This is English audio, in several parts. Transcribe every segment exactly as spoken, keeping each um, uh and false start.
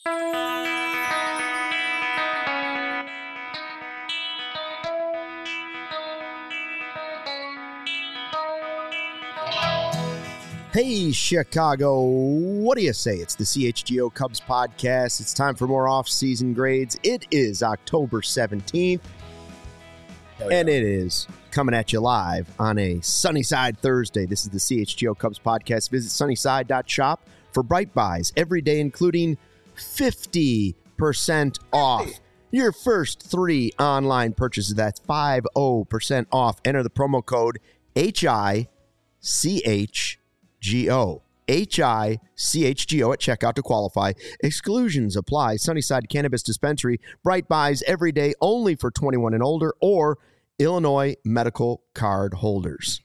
Hey, Chicago, what do you say? It's the C H G O Cubs podcast. It's time for more off-season grades. It is October seventeenth, yeah. And it is coming at you live on a Sunnyside Thursday. This is the C H G O Cubs podcast. Visit sunnyside dot shop for bright buys every day, including fifty percent off your first three online purchases. That's fifty percent off. Enter the promo code H I C H G O. H I C H G O at checkout to qualify. Exclusions apply. Sunnyside Cannabis Dispensary. Bright buys every day only for twenty-one and older or Illinois medical card holders.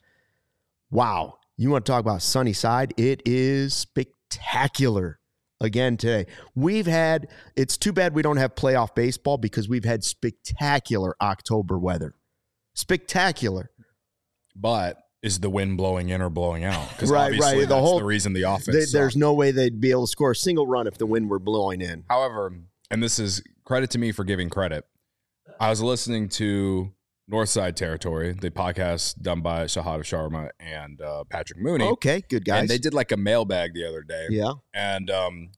Wow. You want to talk about Sunnyside? It is spectacular again today. We've had, it's too bad we don't have playoff baseball because we've had spectacular October weather. Spectacular. But is the wind blowing in or blowing out? Because right, obviously right. The that's whole, the reason the offense they, There's no way they'd be able to score a single run if the wind were blowing in. However, and this is credit to me for giving credit, I was listening to Northside Territory, the podcast done by Shahada Sharma and uh, Patrick Mooney. Okay, good guys. And they did like a mailbag the other day. Yeah. And um,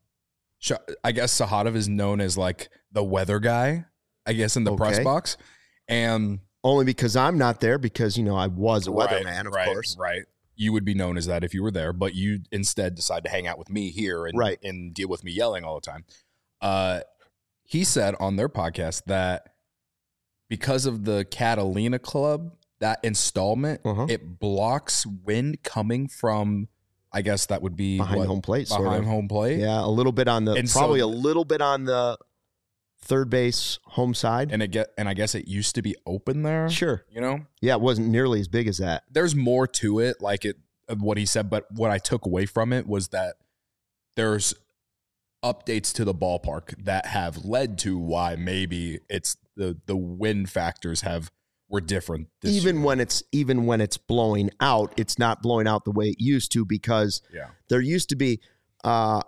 I guess Shahada is known as like the weather guy, I guess, in the okay. press box. And only because I'm not there because, you know, I was a weatherman, right, of right, course. Right. You would be known as that if you were there, but you instead decide to hang out with me here and, right. and deal with me yelling all the time. Uh, he said on their podcast that because of the Catalina Club, that installment, uh-huh. it blocks wind coming from, I guess that would be behind what, home plate. Behind sort of. home plate. Yeah, a little bit on the, and probably so, a little bit on the third base home side. And it get and I guess it used to be open there. Sure. You know? Yeah, it wasn't nearly as big as that. There's more to it, like it of what he said, but what I took away from it was that there's updates to the ballpark that have led to why maybe it's the the wind factors have were different this even year. when it's even when it's blowing out, it's not blowing out the way it used to because yeah. there used to be uh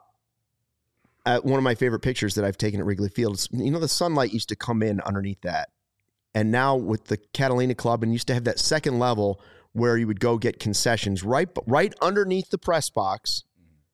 Uh, one of my favorite pictures that I've taken at Wrigley Field is, you know, the sunlight used to come in underneath that. And now with the Catalina Club, and used to have that second level where you would go get concessions right right underneath the press box,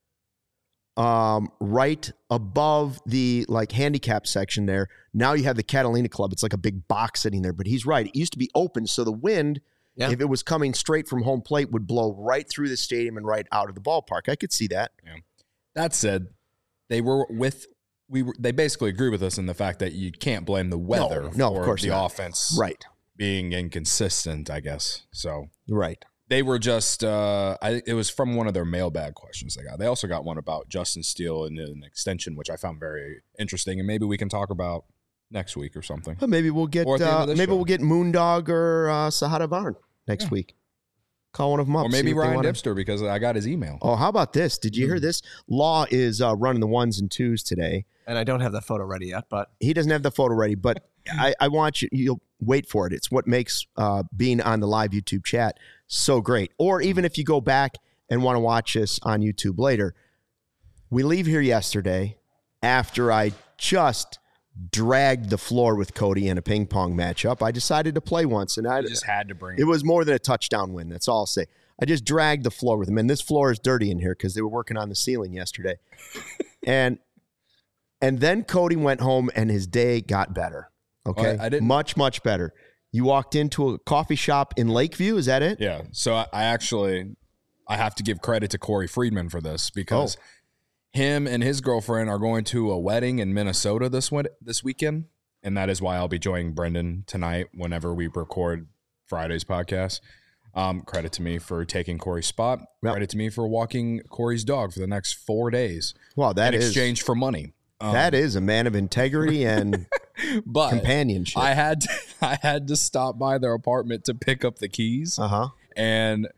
um, right above the like handicap section there. Now you have the Catalina Club. It's like a big box sitting there. But he's right. It used to be open, so the wind, yeah. if it was coming straight from home plate, would blow right through the stadium and right out of the ballpark. I could see that. Yeah. That said, They were with we. Were, they basically agree with us in the fact that you can't blame the weather no, no, for of course the not. offense, right, being inconsistent. I guess so. Right. They were just. Uh, I, it was from one of their mailbag questions they got. They also got one about Justin Steele and an extension, which I found very interesting, and maybe we can talk about next week or something. Well, maybe we'll get. Uh, maybe show. we'll get Moondog or uh, Shahada Varn next yeah. week. Call one of them up. Or maybe Ryan Dipster because I got his email. Oh, how about this? Did you mm. hear this? Law is uh, running the ones and twos today. And I don't have the photo ready yet, but. He doesn't have the photo ready, but I, I want you, you'll wait for it. It's what makes uh, being on the live YouTube chat so great. Or even if you go back and want to watch us on YouTube later, we leave here yesterday after I just dragged the floor with Cody in a ping pong matchup. I decided to play once, and I you just had to bring it. It was more than a touchdown win. That's all I'll say. I just dragged the floor with him, and this floor is dirty in here because they were working on the ceiling yesterday. and and then Cody went home, and his day got better. Okay, well, I didn't much much better. You walked into a coffee shop in Lakeview. Is that it? Yeah. So I, I actually I have to give credit to Corey Friedman for this because. Oh. Him and his girlfriend are going to a wedding in Minnesota this this weekend, and that is why I'll be joining Brendan tonight whenever we record Friday's podcast. Um, credit to me for taking Corey's spot. Yep. Credit to me for walking Corey's dog for the next four days. Wow, that in is exchange for money. Um, that is a man of integrity and but companionship. I had to, I had to stop by their apartment to pick up the keys. Uh huh. And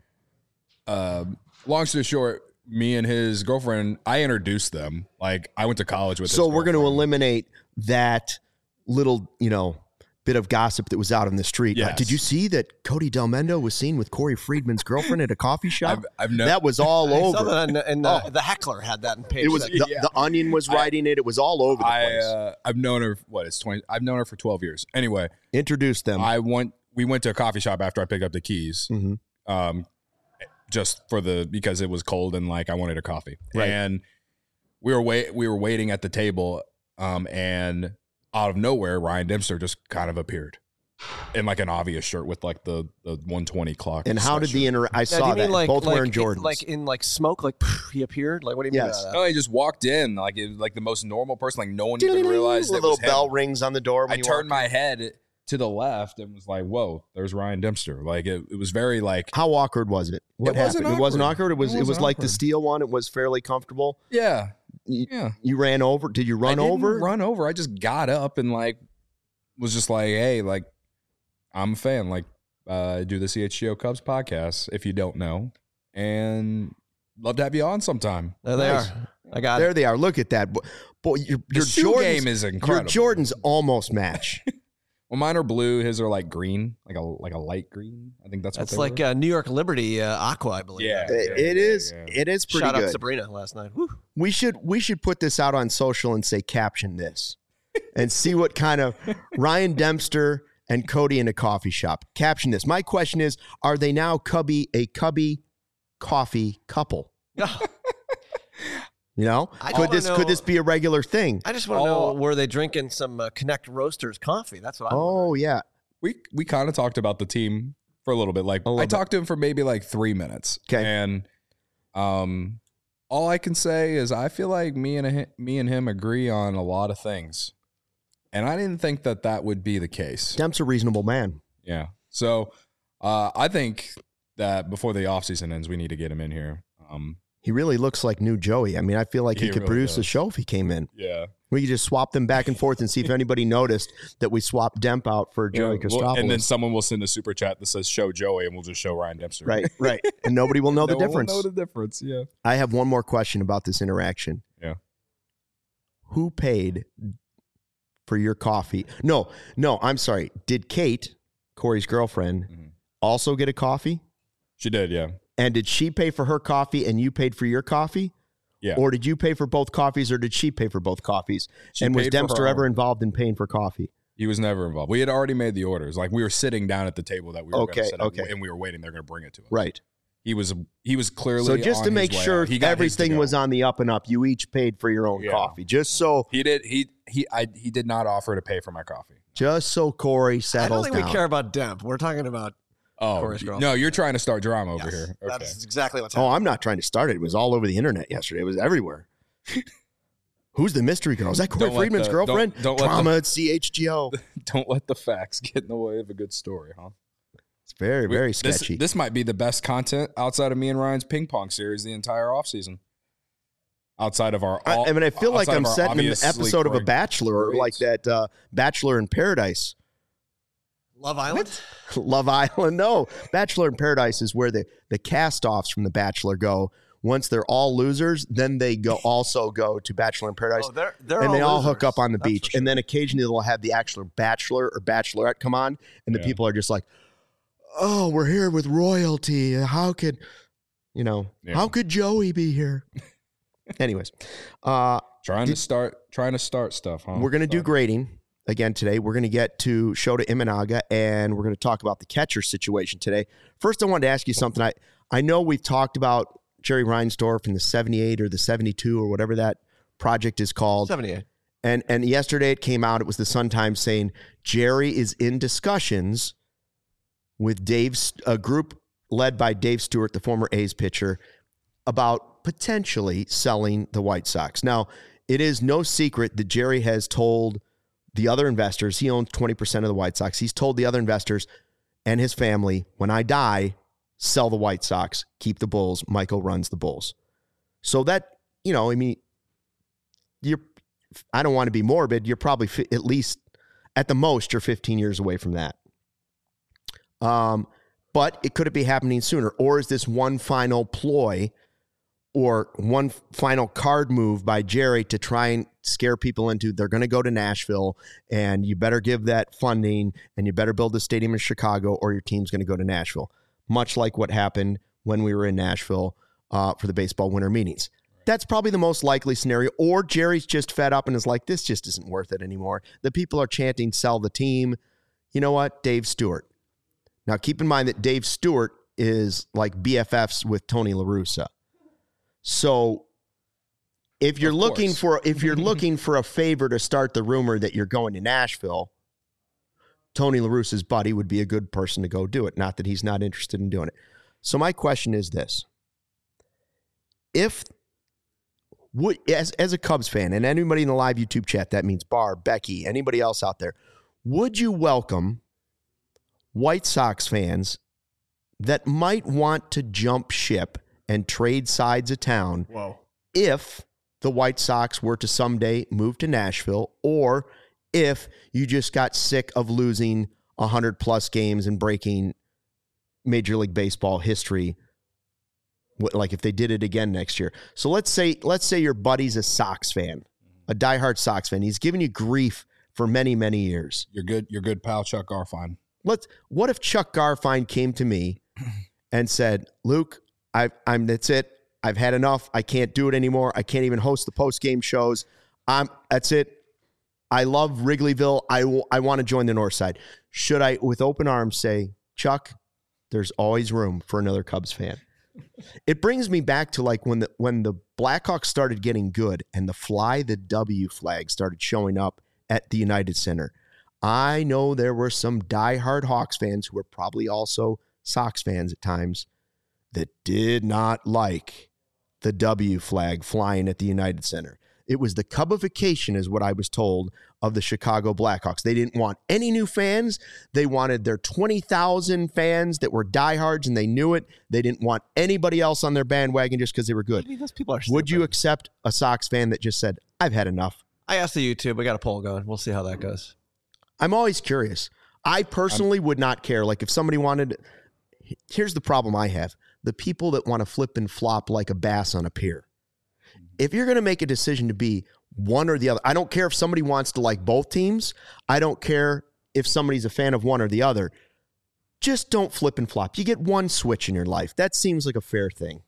uh, long story short. Me and his girlfriend, I introduced them. Like I went to college with. So we're going to eliminate that little, you know, bit of gossip that was out on the street. Yes. Uh, did you see that Cody Delmendo was seen with Corey Friedman's girlfriend at a coffee shop? I've, I've no, that was all I over. saw that, and, and uh, Oh. the heckler had that in page. It was six. the, Yeah. the Onion was I- writing it. It was all over the I place. uh, I've known her. What it's twenty. I've known her for twelve years. Anyway, Introduce them. I went. We went to a coffee shop after I picked up the keys. Mhm. Um, just for the because it was cold and like I wanted a coffee. Right. And we were wait. We were waiting at the table. Um, and out of nowhere, Ryan Dempster just kind of appeared in like an obvious shirt with like the the one twenty clock. and how did the sweatshirt. inter? I Now, do saw you that. mean like, Both like, wearing in- Jordans. like in like smoke, like he appeared. Like what do you mean? Yes. by that? No, he just walked in like it was like the most normal person. Like no one even realized the that little was him. bell rings on the door. When I you turned walk my head to the left and was like, "Whoa, there's Ryan Dempster." Like it, it was very like, How awkward was it? What It wasn't happened? It wasn't awkward. awkward. It was. It It, was wasn't like the awkward. steel one. It was fairly comfortable. yeah, You, yeah. you ran over. Did you run I didn't over? Run over. I just got up and like was just like, "Hey, like I'm a fan. Like uh, I do the C H G O Cubs podcast. If you don't know, and love to have you on sometime." There they Nice. are. I got There it. they are. Look at that. Boy, boy your, The your shoe Jordans, game is your incredible. Jordans almost match. Well, mine are blue. His are like green, like a like a light green. I think that's what That's they like were. uh, New York Liberty uh, Aqua, I believe. Yeah. It- yeah, it yeah, is. yeah. It is pretty Shout out good. Sabrina last night. Woo. We should we should put this out on social and say caption this, and see what kind of Ryan Dempster and Cody in a coffee shop. Caption this. My question is: are they now Cubby a Cubby coffee couple? You know, I could wanna this know- could this be a regular thing? I just want to Oh. know, were they drinking some uh, Connect Roasters coffee? That's what I. Oh yeah, we we kind of talked about the team for a little bit. Like A little I bit. talked to him for maybe like three minutes. 'Kay. And um, all I can say is I feel like me and hi- me and him agree on a lot of things, and I didn't think that that would be the case. Demp's a reasonable man. Yeah. So uh, I think that before the offseason ends, we need to get him in here. Um, He really looks like new Joey. I mean, I feel like he, He could really produce a does. show if he came in. yeah. We could just swap them back and forth and see if anybody noticed that we swapped Demp out for Joey Yeah, well, Christopoulos. and then someone will send a super chat that says "Show Joey," and we'll just show Ryan Dempster. right, right, and nobody will know the No one will difference. Know the difference. Yeah. I have one more question about this interaction. Yeah. Who paid for your coffee? No, no, I'm sorry. Did Kate, Corey's girlfriend, Mhm. also get a coffee? She did. Yeah. And did she pay for her coffee and you paid for your coffee? Yeah. Or did you pay for both coffees or did she pay for both coffees? She and was paid for Dempster her ever own. involved in paying for coffee? He was never involved. We had already made the orders. Like we were sitting down at the table that we were Okay, going to set up, okay. and we were waiting. They're going to bring it to us. Right. He was he was clearly So just on to his make way sure out. He got his to everything go. was on the up and up, you each paid for your own Yeah. coffee. Just so He did. He he I he did not offer to pay for my coffee. just so Corey I don't settles think down. we care about Demp. We're talking about. Oh Corey's girlfriend. no, you're trying to start drama over Yes, here. Okay. That's exactly what's Oh, happening. I'm not trying to start it. It was all over the internet yesterday. It was everywhere. Who's the mystery girl? Is that Corey Don't let Friedman's the- girlfriend? don't- don't let the- Drama at C H G O. Don't let the facts get in the way of a good story, huh? It's very, We- very this, sketchy. This might be the best content outside of me and Ryan's ping pong series the entire offseason. Outside of our, I, all, I mean, I feel like outside I'm of our setting an obviously episode of a correct Bachelor, or like grades. that uh, Bachelor in Paradise. Love Island. Love Island. No, Bachelor in Paradise is where the, the cast-offs from The Bachelor go. Once they're all losers, then they go also go to Bachelor in Paradise. Oh, they're they're and they all losers. hook up on the That's beach. for And sure. then occasionally they'll have the actual bachelor or bachelorette come on, and the Yeah. people are just like, oh, we're here with royalty. How could, you know, Yeah. how could Joey be here? Anyways, uh, trying Did- to start trying to start stuff, huh? we're going to do So- grading again today. We're going to get to Shota Imanaga, and we're going to talk about the catcher situation today. First, I wanted to ask you something. I, I know we've talked about Jerry Reinsdorf and the seventy-eight or the seventy-two or whatever that project is called. seventy-eight. And and yesterday it came out, it was the Sun-Times saying Jerry is in discussions with Dave's a group led by Dave Stewart, the former A's pitcher, about potentially selling the White Sox. Now, it is no secret that Jerry has told the other investors, he owns twenty percent of the White Sox. He's told the other investors and his family, when I die, sell the White Sox, keep the Bulls. Michael runs the Bulls. So that, you know, I mean, you're, I don't want to be morbid. You're probably fi- at least, at the most, you're fifteen years away from that. Um, but it could it be happening sooner? Or is this one final ploy or one final card move by Jerry to try and scare people into they're going to go to Nashville and you better give that funding and you better build a stadium in Chicago or your team's going to go to Nashville, much like what happened when we were in Nashville uh, for the baseball winter meetings. That's probably the most likely scenario. Or Jerry's just fed up and is like, this just isn't worth it anymore. The people are chanting, sell the team. You know what? Dave Stewart. Now, keep in mind that Dave Stewart is like B F Fs with Tony La Russa. So if you're looking for if you're looking for a favor to start the rumor that you're going to Nashville, Tony La Russa's buddy would be a good person to go do it. Not that he's not interested in doing it. So my question is this. If would as as a Cubs fan and anybody in the live YouTube chat, that means Barb, Becky, anybody else out there, would you welcome White Sox fans that might want to jump ship and trade sides of town Whoa. if the White Sox were to someday move to Nashville, or if you just got sick of losing one hundred plus games and breaking Major League Baseball history, like if they did it again next year. So let's say let's say your buddy's a Sox fan, a diehard Sox fan. He's given you grief for many, many years. You're good. You're good, pal, Chuck Garfien. Let's. What if Chuck Garfien came to me and said, "Luke, I, I'm. That's it. I've had enough. I can't do it anymore. I can't even host the post game shows. I'm. That's it. I love Wrigleyville. I, w- I want to join the North Side." Should I, with open arms, say, Chuck, there's always room for another Cubs fan? It brings me back to like when the when the Blackhawks started getting good and the Fly the W flag started showing up at the United Center. I know there were some diehard Hawks fans who were probably also Sox fans at times that did not like the W flag flying at the United Center. It was the Cubification, is what I was told, of the Chicago Blackhawks. They didn't want any new fans. They wanted their twenty thousand fans that were diehards, and they knew it. They didn't want anybody else on their bandwagon just because they were good. Maybe those people are Would you stupid. accept a Sox fan that just said, I've had enough? I asked the YouTube. We got a poll going. We'll see how that goes. I'm always curious. I personally I'm, would not care. Like if somebody wanted, here's the problem I have. The people that want to flip and flop like a bass on a pier. If you're going to make a decision to be one or the other, I don't care if somebody wants to like both teams. I don't care if somebody's a fan of one or the other. Just don't flip and flop. You get one switch in your life. That seems like a fair thing.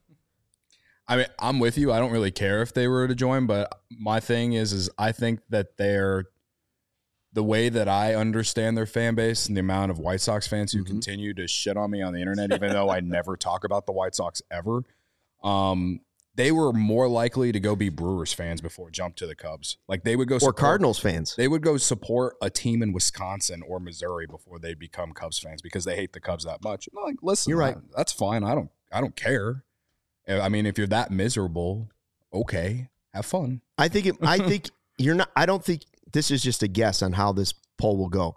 I mean, I'm with you. I don't really care if they were to join, but my thing is, is I think that they're the way that I understand their fan base and the amount of White Sox fans who mm-hmm. continue to shit on me on the internet, even though I never talk about the White Sox ever. Um, they were more likely to go be Brewers fans before jump to the Cubs. Like they would go support, or Cardinals fans. They would go support a team in Wisconsin or Missouri before they become Cubs fans because they hate the Cubs that much. I'm like, listen, you're right. I, that's fine. I don't, I don't care. I mean, if you're that miserable, okay, have fun. I think it, I think you're not. I don't think this is just a guess on how this poll will go.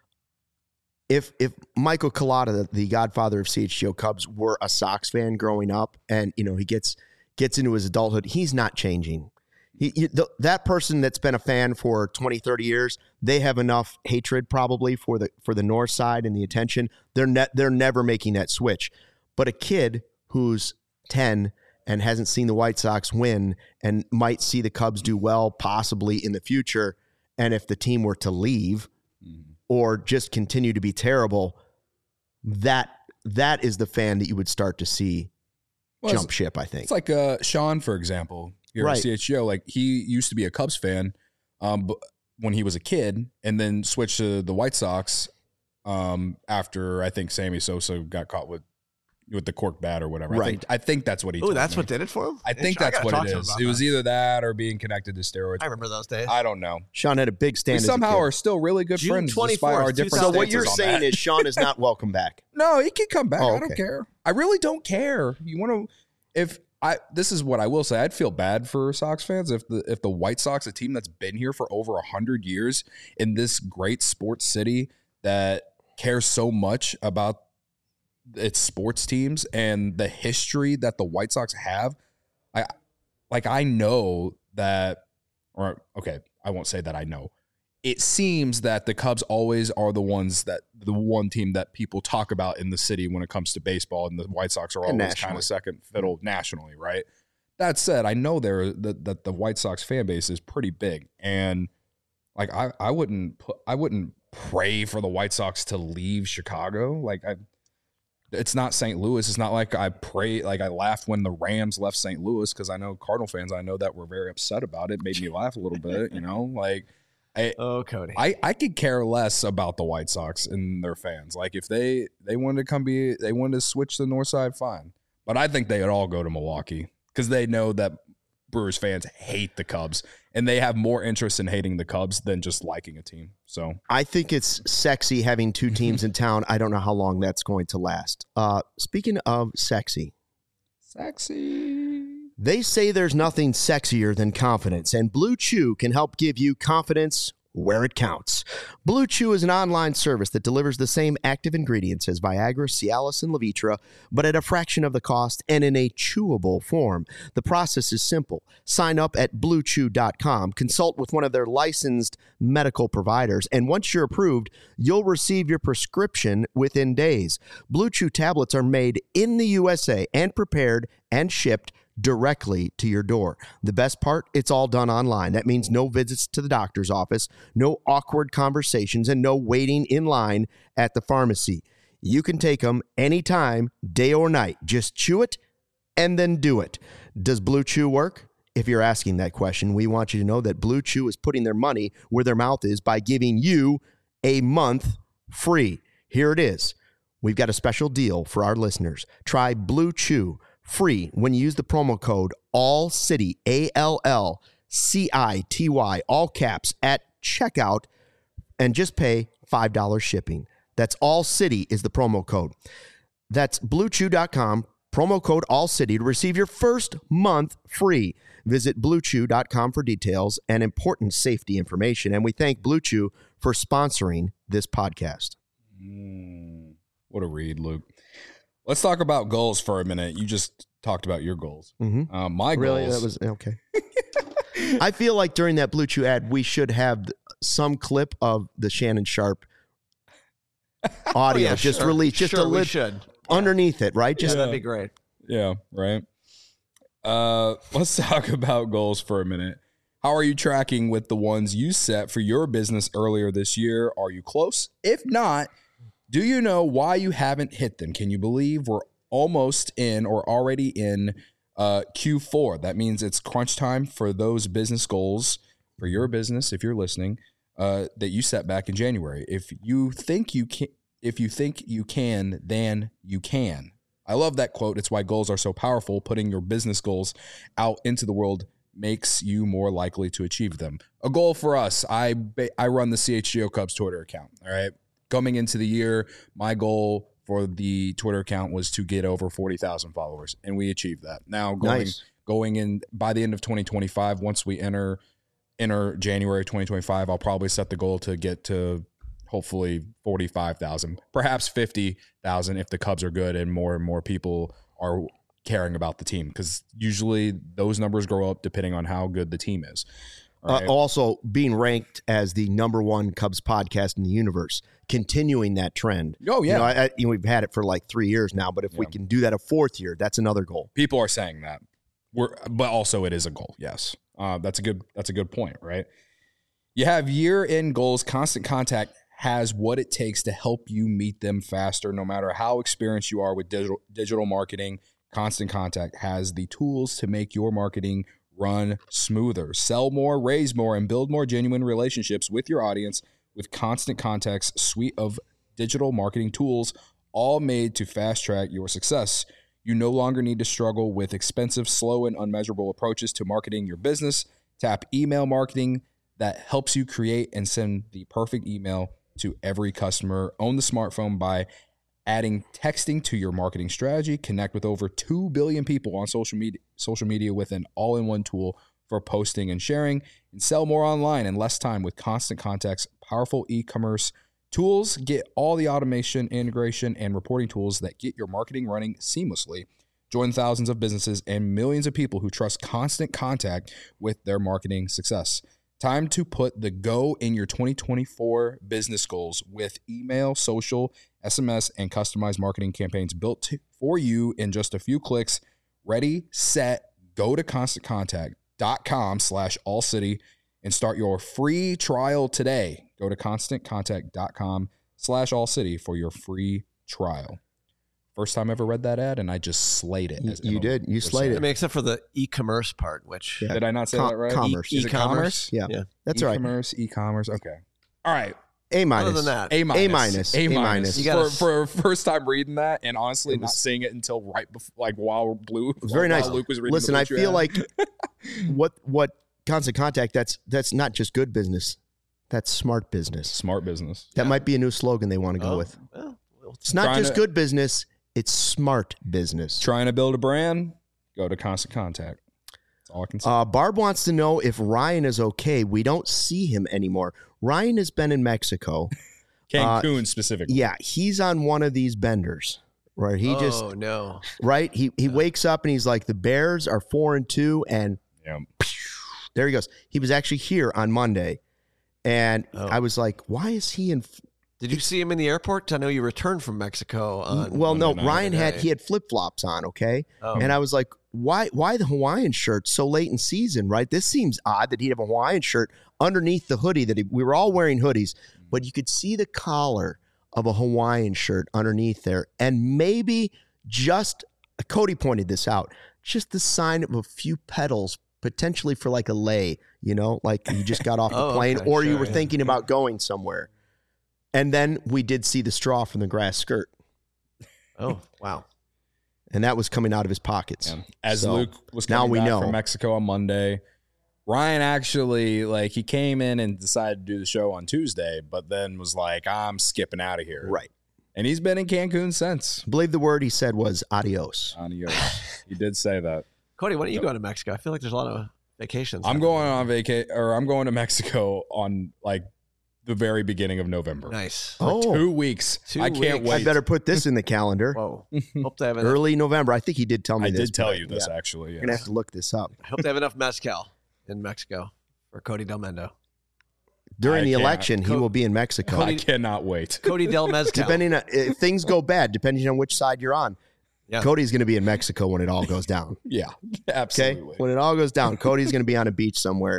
If if Michael Collada, the godfather of C H G O Cubs, were a Sox fan growing up, and you know he gets gets into his adulthood, he's not changing. He, he the, that person that's been a fan for twenty, thirty years, they have enough hatred probably for the for the North Side and the attention. They're ne- they're never making that switch. But a kid who's ten and hasn't seen the White Sox win and might see the Cubs do well possibly in the future, and if the team were to leave mm-hmm. or just continue to be terrible, that that is the fan that you would start to see well, jump ship, I think. It's like uh, Sean, for example, here right. at C H G O. Like he used to be a Cubs fan um, but when he was a kid and then switched to the White Sox um, after I think Sammy Sosa got caught with with the cork bat or whatever. Right. I think, I think that's what he Oh, told that's me. what did it for him? I think I that's what it is. It was that. either that or being connected to steroids. I remember those days. I don't know. Sean had a big stand. We as somehow a kid. are still really good June friends despite our different So what you're stances on saying that. is Sean is not welcome back. No, he can come back. Oh, I okay. don't care. I really don't care. You want to if I this is what I will say. I'd feel bad for Sox fans if the if the White Sox, a team that's been here for over a hundred years in this great sports city that cares so much about its sports teams and the history that the White Sox have. I like I know that or okay, I won't say that I know. It seems that the Cubs always are the ones that the one team that people talk about in the city when it comes to baseball, and the White Sox are always kind of second fiddle nationally, right? That said, I know there that, that the White Sox fan base is pretty big, and like I, I wouldn't put, I wouldn't pray for the White Sox to leave Chicago. Like I, it's not Saint Louis. It's not like I pray, like I laughed when the Rams left Saint Louis, because I know Cardinal fans, I know that were very upset about it. Made me laugh a little bit, you know, like. I, oh, Cody. I, I could care less about the White Sox and their fans. Like if they, they wanted to come be, they wanted to switch to the north side, fine. But I think they would all go to Milwaukee because they know that Brewers fans hate the Cubs and they have more interest in hating the Cubs than just liking a team. So I think it's sexy having two teams in town. I don't know how long that's going to last. Uh, speaking of sexy. Sexy. They say there's nothing sexier than confidence, and Blue Chew can help give you confidence where it counts. Blue Chew is an online service that delivers the same active ingredients as Viagra, Cialis, and Levitra, but at a fraction of the cost and in a chewable form. The process is simple. Sign up at blue chew dot com, consult with one of their licensed medical providers, and once you're approved, you'll receive your prescription within days. Blue Chew tablets are made in the U S A and prepared and shipped directly to your door. The best part, it's all done online. That means no visits to the doctor's office, no awkward conversations, and no waiting in line at the pharmacy. You can take them anytime, day or night. Just chew it and then do it. Does Blue Chew work? If you're asking that question, we want you to know that Blue Chew is putting their money where their mouth is by giving you a month free. Here it is. We've got a special deal for our listeners. Try Blue Chew free when you use the promo code ALLCITY, A L L C I T Y, all caps, at checkout, and just pay five dollars shipping. That's ALLCITY is the promo code. That's blue chew dot com, promo code ALLCITY to receive your first month free. Visit blue chew dot com for details and important safety information. And we thank Blue Chew for sponsoring this podcast. Mm, what a read, Luke. Let's talk about goals for a minute. You just talked about your goals. Mm-hmm. Uh, my really? goals. That was okay. I feel like during that Blue Chew ad, we should have some clip of the Shannon Sharp audio oh, yeah, just sure. released, just sure, a little should. underneath it, right? Just yeah, that'd be great. Yeah, right. Uh, let's talk about goals for a minute. How are you tracking with the ones you set for your business earlier this year? Are you close? If not, do you know why you haven't hit them? Can you believe we're almost in or already in uh, Q four? That means it's crunch time for those business goals for your business, if you're listening, uh, that you set back in January. If you think you can, if you think you can, then you can. I love that quote. It's why goals are so powerful. Putting your business goals out into the world makes you more likely to achieve them. A goal for us, I I run the C H G O Cubs Twitter account, all right? Coming into the year, my goal for the Twitter account was to get over forty thousand followers, and we achieved that. Now, going Nice. going in by the end of twenty twenty-five, once we enter enter January twenty twenty-five, I'll probably set the goal to get to hopefully forty-five thousand, perhaps fifty thousand if the Cubs are good and more and more people are caring about the team, because usually those numbers grow up depending on how good the team is. Right. Uh, also, being ranked as the number one Cubs podcast in the universe, continuing that trend. Oh, yeah. You know, I, I, you know, we've had it for like three years now, but if Yeah. we can do that a fourth year, that's another goal. People are saying that. We're, but also it is a goal. Yes. Uh, that's a good, that's a good point, right? You have year-end goals. Constant Contact has what it takes to help you meet them faster. No matter how experienced you are with digital, digital marketing, Constant Contact has the tools to make your marketing run smoother. Sell more, raise more, and build more genuine relationships with your audience with Constant Contact's suite of digital marketing tools, all made to fast-track your success. You no longer need to struggle with expensive, slow, and unmeasurable approaches to marketing your business. Tap email marketing that helps you create and send the perfect email to every customer. Own the smartphone by adding texting to your marketing strategy. Connect with over two billion people on social media, social media with an all-in-one tool for posting and sharing, and sell more online in less time with Constant Contact's powerful e-commerce tools. Get all the automation, integration, and reporting tools that get your marketing running seamlessly. Join thousands of businesses and millions of people who trust Constant Contact with their marketing success. Time to put the go in your twenty twenty-four business goals with email, social, S M S, and customized marketing campaigns built to, for you in just a few clicks. Ready, set, go to constant contact dot com slash all city and start your free trial today. Go to constant contact dot com slash all city for your free trial. First time I ever read that ad, and I just slayed it. As you Emma did. You was slayed saying. it. I mean, except for the e-commerce part, which Yeah. Did I not say Com- that right? commerce. E- Is it E-commerce? commerce? Yeah, yeah. that's all right. E-commerce, e-commerce. Okay. All right. A minus. Other than that, A minus. A minus. A A minus. minus. You For, gotta- for first time reading that, and honestly It not was- seeing it until right before, like while Blue. It was very while nice. Luke was reading Listen, the I Blue feel ad. like what what Constant Contact, that's that's not just good business. That's smart business. smart business. That might be a new slogan they want to go Oh, with. well, well, It's not Trying just to- good business, it's smart business. Trying to build a brand, go to Constant Contact. That's all I can say. Uh, Barb wants to know if Ryan is okay. We don't see him anymore. Ryan has been in Mexico. Cancun specifically. Yeah, he's on one of these benders, right? He oh, just no. right. He he wakes up and he's like, the Bears are four and two, and Yeah. there he goes. He was actually here on Monday, and Oh. I was like, why is he in? Did you see him in the airport? I know you returned from Mexico. On Well, no, Monday night. Ryan had Day. he had flip flops on, okay, Oh. and I was like, why why the Hawaiian shirt so late in season, right? This seems odd that he'd have a Hawaiian shirt underneath the hoodie that he, we were all wearing hoodies, but you could see the collar of a Hawaiian shirt underneath there, and maybe just Cody pointed this out, just the sign of a few petals potentially for like a lay, you know, like you just got off the Oh, plane okay, or you sure, were yeah. thinking about going somewhere. And then we did see the straw from the grass skirt, Oh, wow. and that was coming out of his pockets. Yeah. As So, Luke was now coming we back know. from Mexico on Monday, Ryan actually, like, he came in and decided to do the show on Tuesday, but then was like, I'm skipping out of here. Right. And he's been in Cancun since. I believe the word he said was adios. Adios. He did say that. Cody, why don't you go to Mexico? I feel like there's a lot of vacations. I'm happening. going on vacation, or I'm going to Mexico on, like, the very beginning of November. Nice. For Oh. two weeks. Two I can't weeks. wait. I better put this in the calendar. Whoa. Hope they have enough, Early November. I think he did tell me I this. did tell but you this, yeah. actually. You're going to Yes. have to look this up. I hope they have enough mezcal in Mexico for Cody Del Mendo. During I the can't- election, he Co- will be in Mexico. I cannot wait. Cody Del Mezcal. Depending on if things go bad, depending on which side you're on. Yeah. Cody's going to be in Mexico when it all goes down. Yeah, Okay? absolutely. When it all goes down, Cody's going to be on a beach somewhere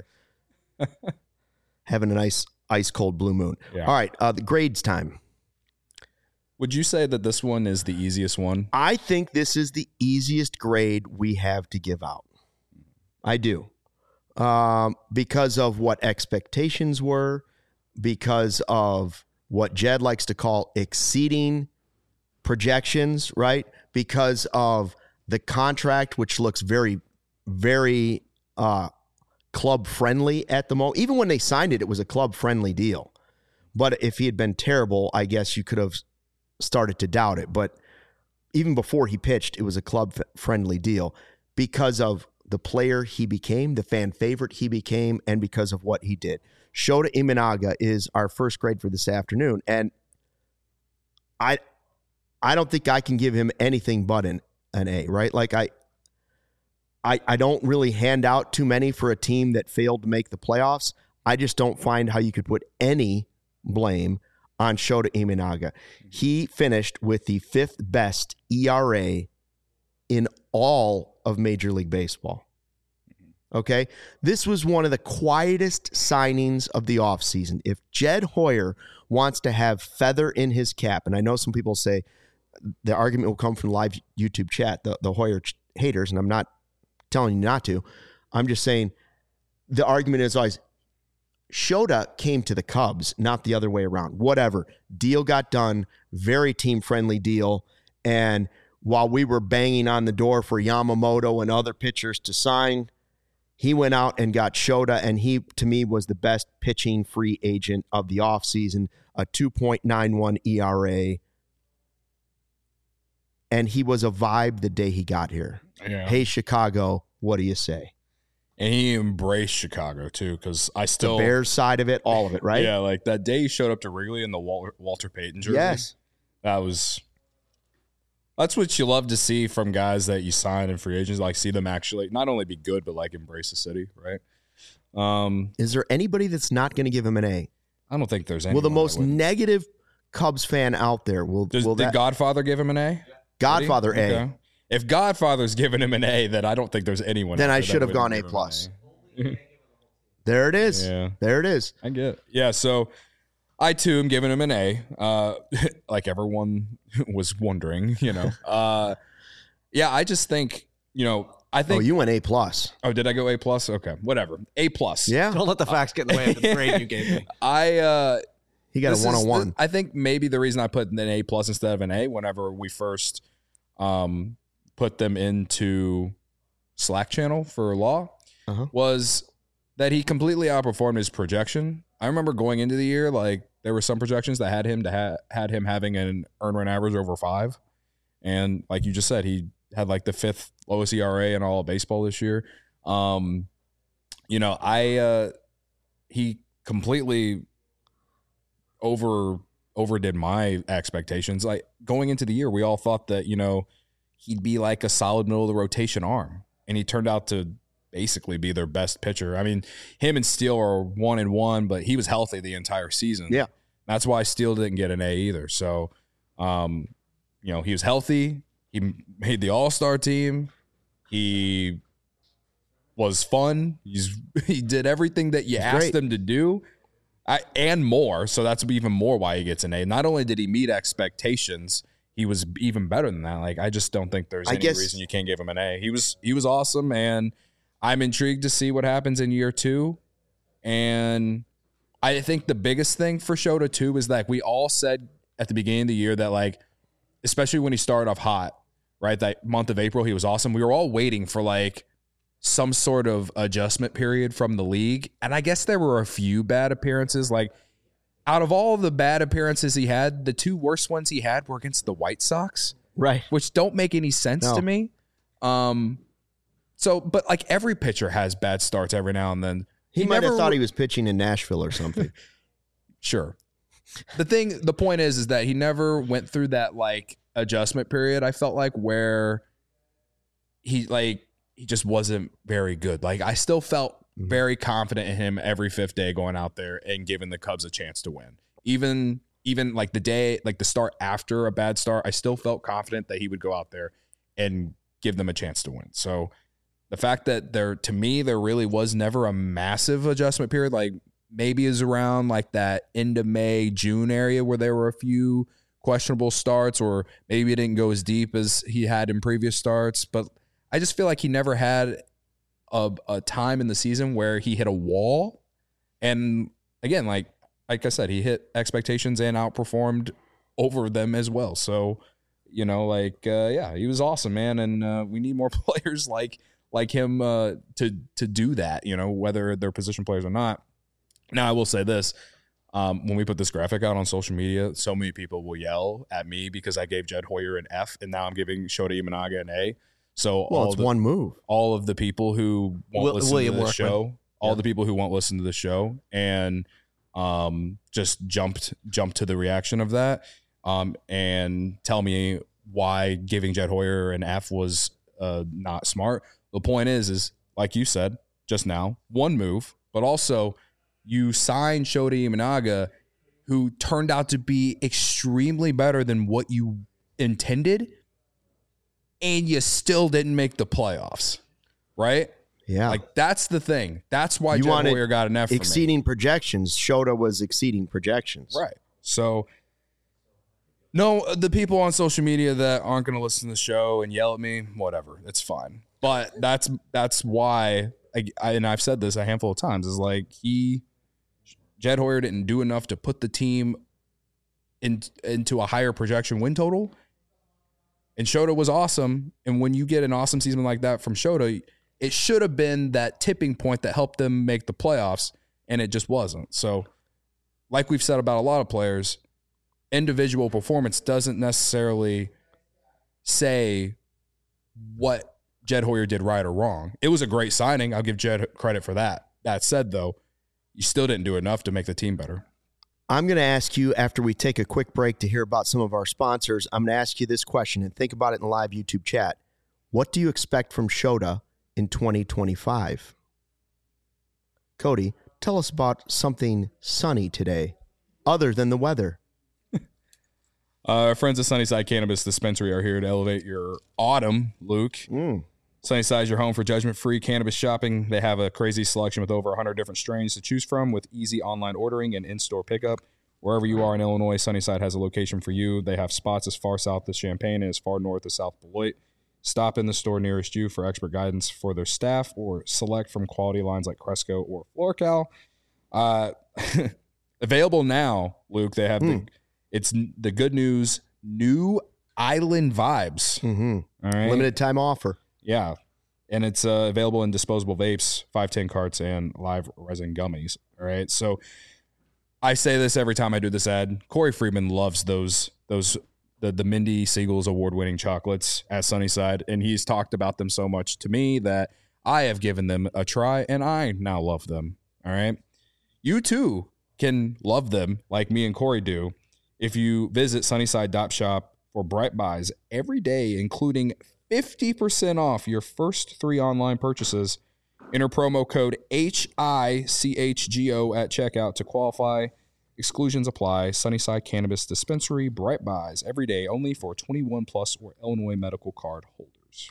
having a nice ice cold blue moon. Yeah. All right, uh, the grades time. Would you say that this one is the easiest one? I think this is the easiest grade we have to give out. I do. Um, because of what expectations were, because of what Jed likes to call exceeding projections, right? Because of the contract, which looks very, very uh, club friendly at the moment. Even when they signed it, it was a club friendly deal. But if he had been terrible, I guess you could have started to doubt it. But even before he pitched, it was a club friendly deal because of the player he became, the fan favorite he became, and because of what he did. Shota Imanaga is our first grade for this afternoon. And I I don't think I can give him anything but an, an A, right? Like I, I I don't really hand out too many for a team that failed to make the playoffs. I just don't find how you could put any blame on Shota Imanaga. He finished with the fifth best E R A in all of Major League Baseball. Okay? This was one of the quietest signings of the offseason. If Jed Hoyer wants to have feather in his cap, and I know some people say the argument will come from the live YouTube chat, the, the Hoyer ch- haters, and I'm not telling you not to. I'm just saying the argument is always, Shota came to the Cubs, not the other way around. Whatever. Deal got done. Very team-friendly deal. And while we were banging on the door for Yamamoto and other pitchers to sign, he went out and got Shota, and he, to me, was the best pitching free agent of the offseason, a two point nine one E R A. And he was a vibe the day he got here. Yeah. Hey, Chicago, what do you say? And he embraced Chicago, too, because I still... The Bears side of it, all of it, right? Yeah, like that day he showed up to Wrigley in the Walter, Walter Payton jersey. Yes. That was... That's what you love to see from guys that you sign in free agents, like see them actually not only be good, but like embrace the city, right? Um, Is there anybody that's not going to give him an A? I don't think there's any. Will the most negative Cubs fan out there will Does, will did that Godfather give him an A? Godfather Did he? A? Okay. if Godfather's giving him an A, then I don't think there's anyone. Then I that should have would gone give A him plus. an A. There it is. Yeah. There it is. I get it. Yeah, so I, too, am giving him an A, uh, like everyone was wondering, you know. Uh, yeah, I just think, you know, I think. Oh, you went A plus. Oh, did I go A plus? Okay, whatever. A plus. Yeah. Don't let the facts get in the way of the grade you gave me. I, uh, he got a one oh one. I think maybe the reason I put an A plus instead of an A whenever we first um, put them into Slack channel for Law uh-huh. was that he completely outperformed his projection. I remember going into the year, like there were some projections that had him to ha- had him having an earn run average over five, and like you just said, he had like the fifth lowest E R A in all of baseball this year. Um, you know, I uh, he completely over overdid my expectations. Like going into the year, we all thought that, you know, he'd be like a solid middle of the rotation arm, and he turned out to basically be their best pitcher. I mean, him and Steele are one and one, but he was healthy the entire season. Yeah. That's why Steele didn't get an A either. So, um, you know, he was healthy. He made the All-Star team. He was fun. He's he did everything that you He's asked great. him to do. I, and more. So that's even more why he gets an A. Not only did he meet expectations, he was even better than that. Like, I just don't think there's I any guess, reason you can't give him an A. He was he was awesome, and I'm intrigued to see what happens in year two. And I think the biggest thing for Shota too is that we all said at the beginning of the year that, like, especially when he started off hot, right? That month of April, he was awesome. We were all waiting for like some sort of adjustment period from the league. And I guess there were a few bad appearances. Like, out of all the bad appearances he had, the two worst ones he had were against the White Sox, right? Which don't make any sense No. to me. Um, so, but like every pitcher has bad starts every now and then. He, He might never have thought he was pitching in Nashville or something. Sure. The thing, the point is, is that he never went through that like adjustment period. I felt like where he like he just wasn't very good. Like I still felt Mhm. very confident in him every fifth day going out there and giving the Cubs a chance to win. Even even like the day, like the start after a bad start, I still felt confident that he would go out there and give them a chance to win. So the fact that there, to me, there really was never a massive adjustment period, like maybe is around like that end of May, June area where there were a few questionable starts, or maybe it didn't go as deep as he had in previous starts. But I just feel like he never had a, a time in the season where he hit a wall. And again, like, like I said, he hit expectations and outperformed over them as well. So, you know, like, uh, yeah, he was awesome, man. And uh, we need more players like, like him uh, to, to do that, you know, whether they're position players or not. Now, I will say this. Um, when we put this graphic out on social media, so many people will yell at me because I gave Jed Hoyer an F, and now I'm giving Shota Imanaga an A. So Well, all it's the, one move. all of the people who won't Will- listen William to the Workman. show, all Yeah. the people who won't listen to the show, and um, just jumped jumped to the reaction of that, um, and tell me why giving Jed Hoyer an F was uh, not smart. The point is, is like you said just now, one move, but also you signed Shota Imanaga, who turned out to be extremely better than what you intended, and you still didn't make the playoffs, right? Yeah. Like, that's the thing. That's why You Jed wanted Hoyer got an F for me. exceeding projections. Shota was exceeding projections. Right. So, no, the people on social media that aren't going to listen to the show and yell at me, whatever, it's fine. But that's that's why, I, I, and I've said this a handful of times, is like he, Jed Hoyer didn't do enough to put the team in, into a higher projection win total. And Shota was awesome. And when you get an awesome season like that from Shota, it should have been that tipping point that helped them make the playoffs, and it just wasn't. So, like we've said about a lot of players, individual performance doesn't necessarily say what Jed Hoyer did right or wrong. It was a great signing. I'll give Jed credit for that. That said, though, you still didn't do enough to make the team better. I'm going to ask you, after we take a quick break to hear about some of our sponsors, I'm going to ask you this question, and think about it in the live YouTube chat. What do you expect from Shota in twenty twenty-five? Cody, tell us about something sunny today, other than the weather. Uh, our friends at Sunnyside Cannabis Dispensary are here to elevate your autumn, Luke. Mm. Sunnyside is your home for judgment-free cannabis shopping. They have a crazy selection with over one hundred different strains to choose from with easy online ordering and in-store pickup. Wherever you are in Illinois, Sunnyside has a location for you. They have spots as far south as Champaign and as far north as South Beloit. Stop in the store nearest you for expert guidance for their staff or select from quality lines like Cresco or FloraCal. Uh, available now, Luke. They have mm. the it's the good news new Island Vibes. Mm-hmm. All right, limited time offer. Yeah, and it's uh, available in disposable vapes, five ten carts, and live resin gummies. All right, so I say this every time I do this ad. Corey Friedman loves those those the the Mindy Siegel's award-winning chocolates at Sunnyside, and he's talked about them so much to me that I have given them a try, and I now love them. All right, you too can love them like me and Corey do if you visit Sunnyside dot shop for Bright Buys every day, including fifty percent off your first three online purchases. Enter promo code H I C H G O at checkout to qualify. Exclusions apply. Sunnyside Cannabis Dispensary, Bright Buys, every day only for twenty-one plus or Illinois medical card holders.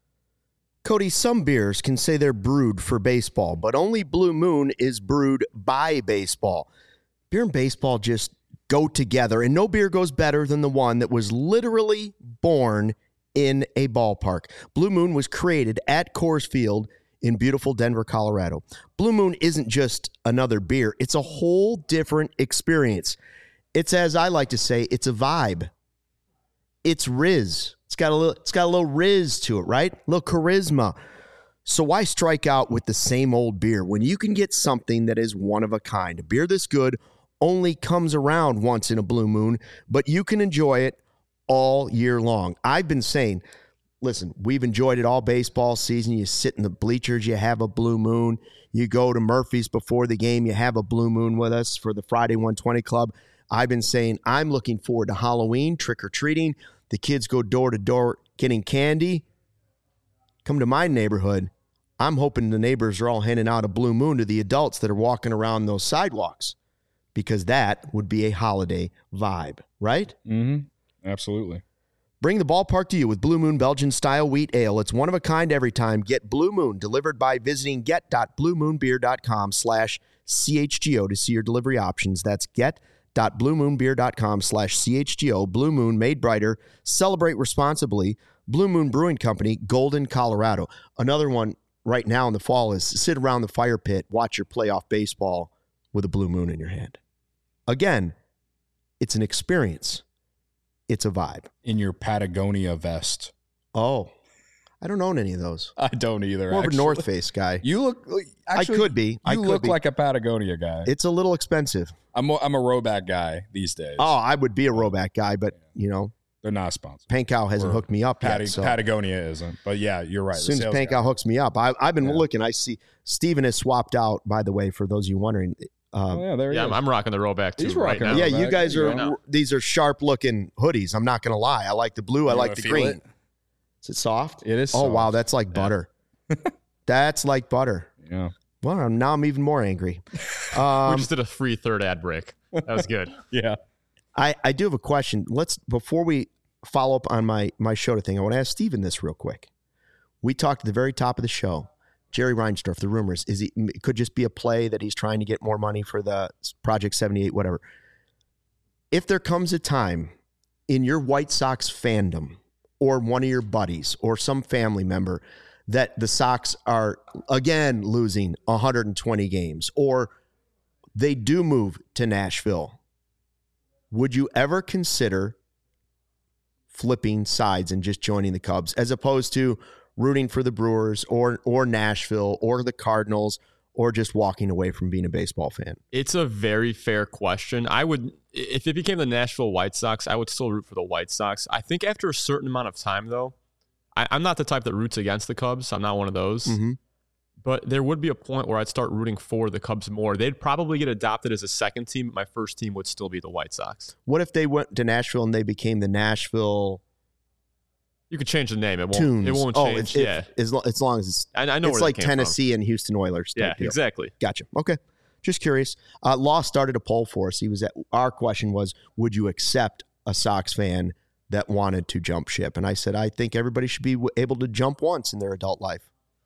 Cody, some beers can say they're brewed for baseball, but only Blue Moon is brewed by baseball. Beer and baseball just go together, and no beer goes better than the one that was literally born in a ballpark. Blue Moon was created at Coors Field in beautiful Denver, Colorado. Blue Moon isn't just another beer. It's a whole different experience. It's, as I like to say, it's a vibe. It's Riz. It's got a little, it's got a little Riz to it, right? A little charisma. So why strike out with the same old beer when you can get something that is one of a kind? A beer this good only comes around once in a blue moon, but you can enjoy it all year long. I've been saying, listen, we've enjoyed it all baseball season. You sit in the bleachers, you have a blue moon. You go to Murphy's before the game, you have a blue moon with us for the Friday one twenty Club. I've been saying I'm looking forward to Halloween, trick-or-treating. The kids go door to door getting candy. Come to my neighborhood. I'm hoping the neighbors are all handing out a blue moon to the adults that are walking around those sidewalks, because that would be a holiday vibe, right? Mm-hmm. Absolutely. Bring the ballpark to you with Blue Moon Belgian-style wheat ale. It's one of a kind every time. Get Blue Moon delivered by visiting get.bluemoonbeer.com slash CHGO to see your delivery options. That's get.bluemoonbeer.com slash CHGO. Blue Moon, made brighter. Celebrate responsibly. Blue Moon Brewing Company, Golden, Colorado. Another one right now in the fall is sit around the fire pit, watch your playoff baseball with a blue moon in your hand. Again, it's an experience. It's a vibe. In your Patagonia vest. Oh, I don't own any of those. I don't either. More actually. of a North Face guy. You look. Actually, I could be. You I could look be. like a Patagonia guy. It's a little expensive. I'm a, I'm a Roback guy these days. Oh, I would be a Roback guy, but you know, they're not sponsored. Pankow hasn't Or hooked me up Pat- yet. So. Patagonia isn't. But yeah, you're right. As soon as Pankow hooks me up, I, I've been yeah. looking. I see Steven has swapped out. By the way, for those of you wondering. Um, oh, yeah, there yeah is. I'm rocking the Roback too. He's right rocking now. Yeah, Roback. you guys you are. go. These are sharp looking hoodies. I'm not going to lie. I like the blue. I You like the feel green. it? Is it soft? It is Oh soft. wow, that's like Yeah. butter. That's like butter. Yeah. Well, now I'm even more angry. we Um, just did a free third ad break. That was good. Yeah. I, I do have a question. Let's before we follow up on my my show thing, I want to ask Steven this real quick. We talked at the very top of the show. Jerry Reinsdorf, the rumors, is he it could just be a play that he's trying to get more money for the Project seventy-eight, whatever. If there comes a time in your White Sox fandom or one of your buddies or some family member that the Sox are, again, losing one hundred twenty games, or they do move to Nashville, would you ever consider flipping sides and just joining the Cubs as opposed to rooting for the Brewers or or Nashville or the Cardinals or just walking away from being a baseball fan? It's a very fair question. I would, if it became the Nashville White Sox, I would still root for the White Sox. I think after a certain amount of time, though, I, I'm not the type that roots against the Cubs. I'm not one of those. Mm-hmm. But there would be a point where I'd start rooting for the Cubs more. They'd probably get adopted as a second team, but my first team would still be the White Sox. What if they went to Nashville and they became the Nashville You could change the name. It won't. Tunes? It won't oh, change. if, yeah, if, as, lo- as long as it's, I, I know it's where like that came Tennessee and Houston Oilers. From. type Yeah, deal. exactly. Gotcha. Okay. Just curious. Uh, Law started a poll for us. He was at, our question was, would you accept a Sox fan that wanted to jump ship. And I said, I think everybody should be able to jump once in their adult life.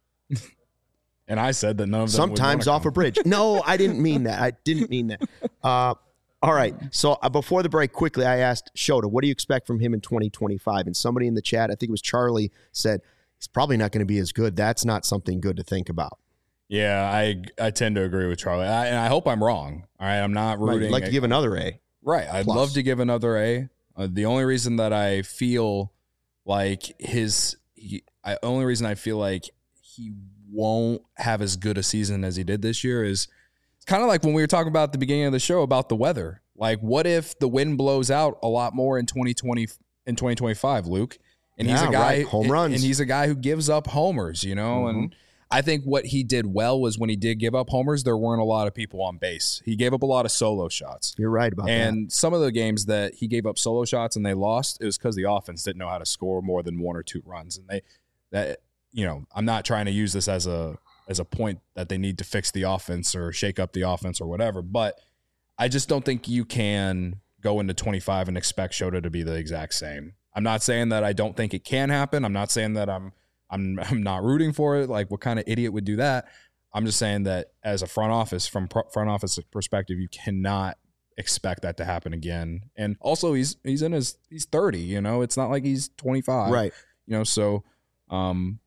And I said that none of them sometimes off come. a bridge. No, I didn't mean that. I didn't mean that. Uh, all right. So uh, before the break, quickly, I asked Shota, what do you expect from him in twenty twenty-five? And somebody in the chat, I think it was Charlie, said he's probably not going to be as good. That's not something good to think about. Yeah, I I tend to agree with Charlie. I, and I hope I'm wrong. All right, I'm not rooting. I'd like to give another A. Right. I'd Plus. love to give another A. Uh, the only reason that I feel like his, he, I only reason I feel like he won't have as good a season as he did this year is it's kind of like when we were talking about at the beginning of the show about the weather. Like, what if the wind blows out a lot more in twenty twenty in twenty twenty-five, Luke? And yeah, he's a guy right. home runs, and he's a guy who gives up homers, you know, mm-hmm. and. I think what he did well was when he did give up homers, there weren't a lot of people on base. He gave up a lot of solo shots. You're right about and that. And some of the games that he gave up solo shots and they lost, it was because the offense didn't know how to score more than one or two runs. And they, that you know, I'm not trying to use this as a as a point that they need to fix the offense or shake up the offense or whatever. But I just don't think you can go into twenty-five and expect Shota to be the exact same. I'm not saying that I don't think it can happen. I'm not saying that I'm I'm I'm not rooting for it. Like, what kind of idiot would do that? I'm just saying that as a front office, from pro- front office perspective, you cannot expect that to happen again. And also, he's he's in his he's thirty. You know, it's not like he's twenty-five. Right. You know, so um,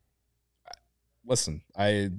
listen, I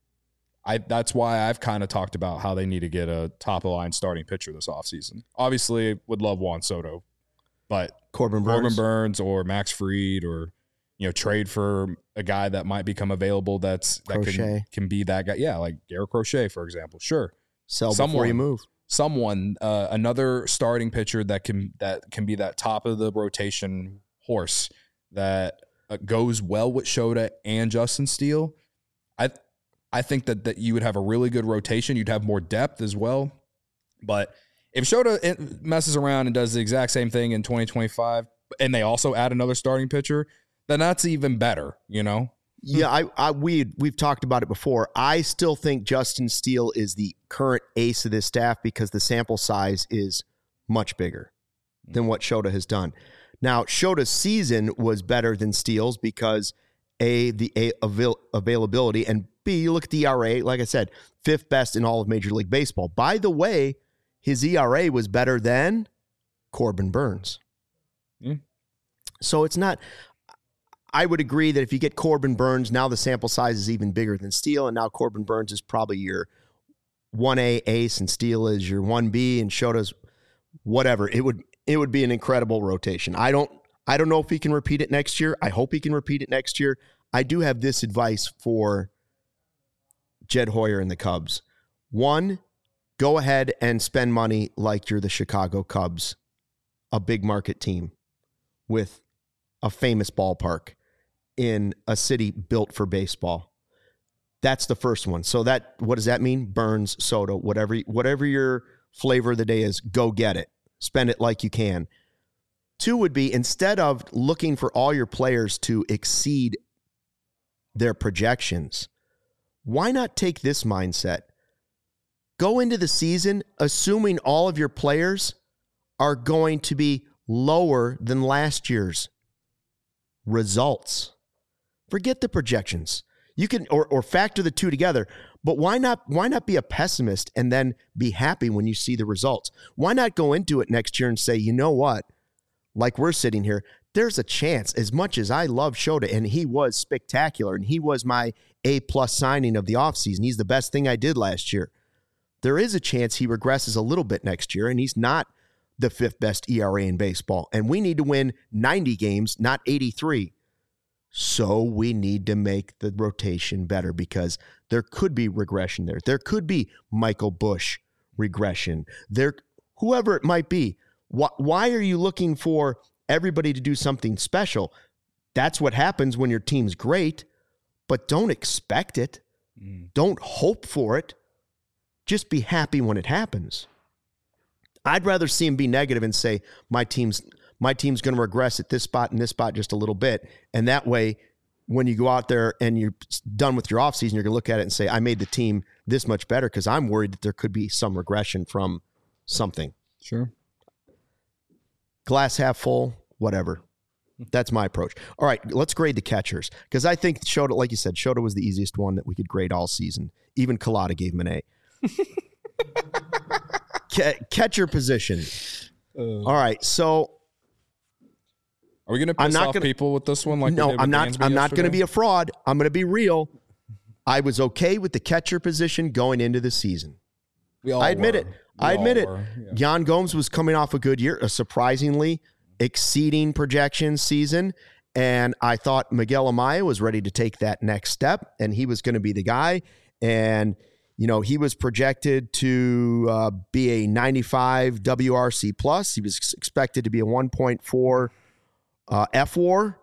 I that's why I've kind of talked about how they need to get a top of the line starting pitcher this offseason. Obviously, would love Juan Soto, but Corbin Burnes. Corbin Burnes or Max Fried or. You know, trade for a guy that might become available that's that can, can be that guy. Yeah, like Garrett Crochet, for example. Sure. Sell someone, before you move. Someone, uh, another starting pitcher that can that can be that top of the rotation horse that uh, goes well with Shota and Justin Steele. I I think that, that you would have a really good rotation. You'd have more depth as well. But if Shota messes around and does the exact same thing in twenty twenty-five, and they also add another starting pitcher, then that's even better, you know? Yeah, I, I we we've talked about it before. I still think Justin Steele is the current ace of this staff because the sample size is much bigger than what Shota has done. Now, Shota's season was better than Steele's because A, the A, avail, availability, and B, you look at the E R A, like I said, fifth best in all of Major League Baseball. By the way, his E R A was better than Corbin Burnes. Mm. So it's not... I would agree that if you get Corbin Burnes, now the sample size is even bigger than Steele, and now Corbin Burnes is probably your one A ace, and Steele is your one B, and Shota's whatever. It would it would be an incredible rotation. I don't I don't know if he can repeat it next year. I hope he can repeat it next year. I do have this advice for Jed Hoyer and the Cubs. One, go ahead and spend money like you're the Chicago Cubs, a big market team with a famous ballpark in a city built for baseball. That's the first one. So that, what does that mean? Burnes, Soto, whatever, whatever your flavor of the day is, go get it. Spend it like you can. Two would be, instead of looking for all your players to exceed their projections, why not take this mindset? Go into the season assuming all of your players are going to be lower than last year's results. Forget the projections. You can or or factor the two together, but why not why not be a pessimist and then be happy when you see the results? Why not go into it next year and say, you know what? Like we're sitting here, there's a chance, as much as I love Shota, and he was spectacular, and he was my A-plus signing of the offseason. He's the best thing I did last year. There is a chance he regresses a little bit next year, and he's not the fifth best E R A in baseball. And we need to win ninety games, not eighty-three. So we need to make the rotation better because there could be regression there. There could be Michael Busch regression. There, whoever it might be. Why, why are you looking for everybody to do something special? That's what happens when your team's great, but don't expect it. Mm. Don't hope for it. Just be happy when it happens. I'd rather see him be negative and say, my team's my team's going to regress at this spot and this spot just a little bit. And that way, when you go out there and you're done with your offseason, you're going to look at it and say, I made the team this much better because I'm worried that there could be some regression from something. Sure. glass half full, whatever. That's my approach. All right, let's grade the catchers because I think Shota, like you said, Shota was the easiest one that we could grade all season. Even Collada gave him an A. Ca- catcher position. Uh, all right, so are we going to piss off gonna, people with this one? Like no, I'm not. I'm not going to be a fraud. I'm going to be real. I was okay with the catcher position going into the season. We all I admit were. it. We I admit it. Yeah. Yan Gomes was coming off a good year, a surprisingly exceeding projection season. And I thought Miguel Amaya was ready to take that next step, and he was going to be the guy. And, you know, he was projected to uh, be a ninety-five W R C plus. He was expected to be a one point four uh, F W A R.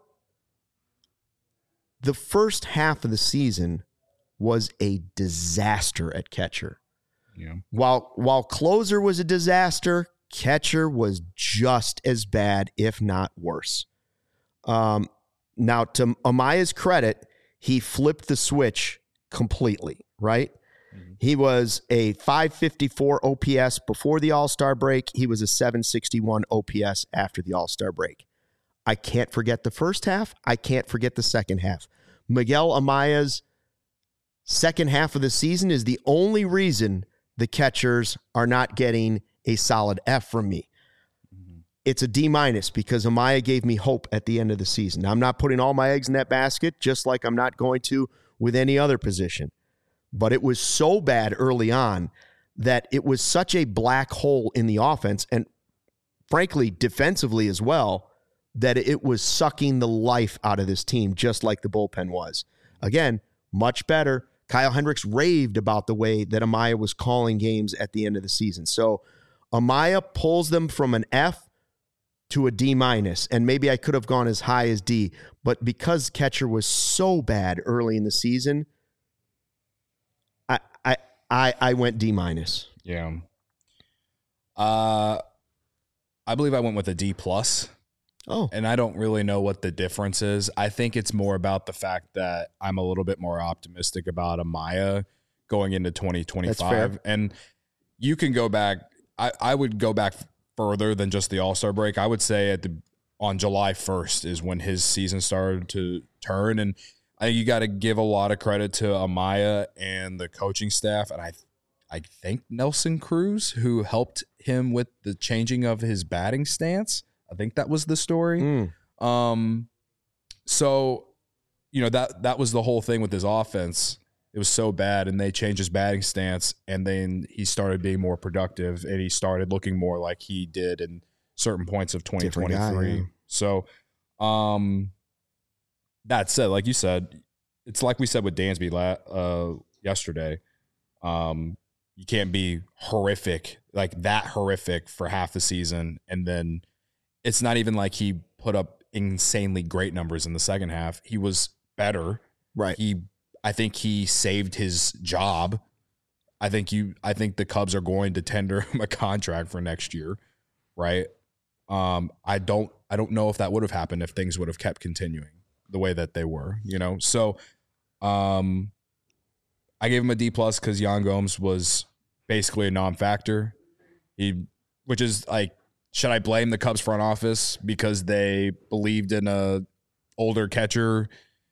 The first half of the season was a disaster at catcher. Yeah. While while closer was a disaster, catcher was just as bad, if not worse. Um, now, to Amaya's credit, he flipped the switch completely, right? Mm-hmm. He was a five fifty-four O P S before the All-Star break. He was a seven sixty-one O P S after the All-Star break. I can't forget the first half. I can't forget the second half. Miguel Amaya's second half of the season is the only reason the catchers are not getting a solid F from me. Mm-hmm. It's a D minus because Amaya gave me hope at the end of the season. Now, I'm not putting all my eggs in that basket, just like I'm not going to with any other position. But it was so bad early on that it was such a black hole in the offense and, frankly, defensively as well, that it was sucking the life out of this team, just like the bullpen was. Again, much better. Kyle Hendricks raved about the way that Amaya was calling games at the end of the season. So Amaya pulls them from an F to a D minus, and maybe I could have gone as high as D, but because catcher was so bad early in the season, I I I, I went D minus. Yeah. Uh, I believe I went with a D plus. Oh. And I don't really know what the difference is. I think it's more about the fact that I'm a little bit more optimistic about Amaya going into twenty twenty-five. That's fair. And you can go back. I, I would go back further than just the All-Star break. I would say at the on July first is when his season started to turn. And I think you got to give a lot of credit to Amaya and the coaching staff. And I I think Nelson Cruz, who helped him with the changing of his batting stance. I think that was the story. Mm. Um, so, you know, that that was the whole thing with his offense. It was so bad, and they changed his batting stance, and then he started being more productive, and he started looking more like he did in certain points of twenty twenty-three. Guy, yeah. So, um, that said, like you said, it's like we said with Dansby la- uh, yesterday. Um, you can't be horrific, like that horrific for half the season, and then it's not even like he put up insanely great numbers in the second half. He was better. Right. He, I think he saved his job. I think you, I think the Cubs are going to tender him a contract for next year. Right. Um, I don't, I don't know if that would have happened if things would have kept continuing the way that they were, you know? So, um, I gave him a D plus because Yan Gomes was basically a non-factor. He, which is like, should I blame the Cubs front office because they believed in a older catcher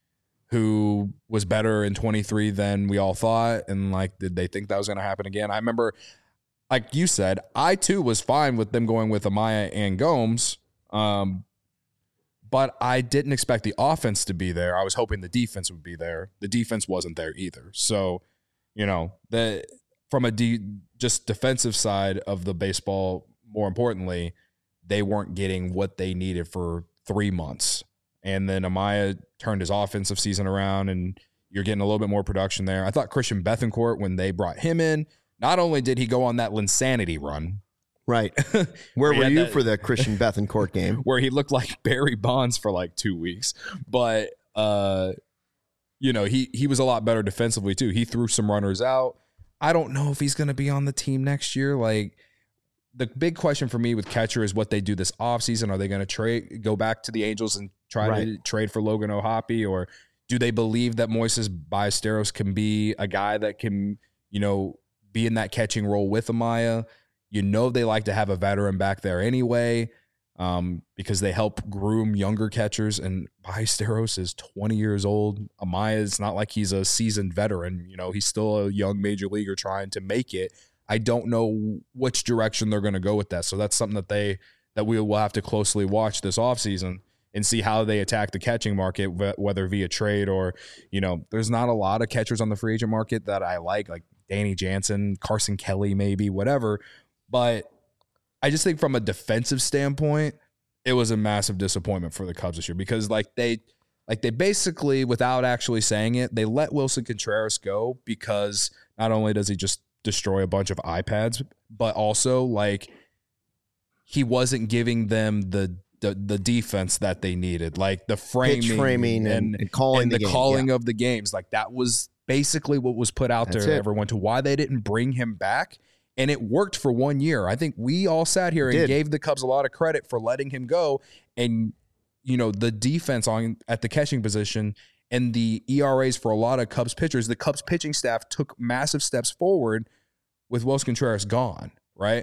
who was better in twenty-three than we all thought? And like, did they think that was going to happen again? I remember, like you said, I too was fine with them going with Amaya and Gomes. Um, but I didn't expect the offense to be there. I was hoping the defense would be there. The defense wasn't there either. So, you know, the from a de- just defensive side of the baseball, more importantly, they weren't getting what they needed for three months. And then Amaya turned his offensive season around, and you're getting a little bit more production there. I thought Christian Bethancourt, when they brought him in, not only did he go on that Linsanity run. Right. Where were you that, for the Christian Bethancourt game? Where he looked like Barry Bonds for like two weeks. But, uh, you know, he, he was a lot better defensively, too. He threw some runners out. I don't know if he's going to be on the team next year. Like, the big question for me with catcher is what they do this offseason. Are they going to trade, go back to the Angels and try right. to trade for Logan O'Hoppe? Or do they believe that Moises Ballesteros can be a guy that can, you know, be in that catching role with Amaya? You know, they like to have a veteran back there anyway. um, because they help groom younger catchers. And Ballesteros is twenty years old. Amaya is not like he's a seasoned veteran. You know, he's still a young major leaguer trying to make it. I don't know which direction they're going to go with that. So that's something that they that we will have to closely watch this offseason and see how they attack the catching market, whether via trade or, you know, there's not a lot of catchers on the free agent market that I like, like Danny Jansen, Carson Kelly, maybe, whatever. But I just think from a defensive standpoint, it was a massive disappointment for the Cubs this year because like they like they basically, without actually saying it, they let Wilson Contreras go because not only does he just destroy a bunch of iPads, but also like he wasn't giving them the the, the defense that they needed, like the framing, Pitch framing and, and, and calling and the, the game, calling yeah. of the games. Like that was basically what was put out That's there to it. everyone to why they didn't bring him back. And it worked for one year. I think we all sat here and Did. gave the Cubs a lot of credit for letting him go. And, you know, the defense on at the catching position and the E R As for a lot of Cubs pitchers, the Cubs pitching staff took massive steps forward with Wilson Contreras gone, right,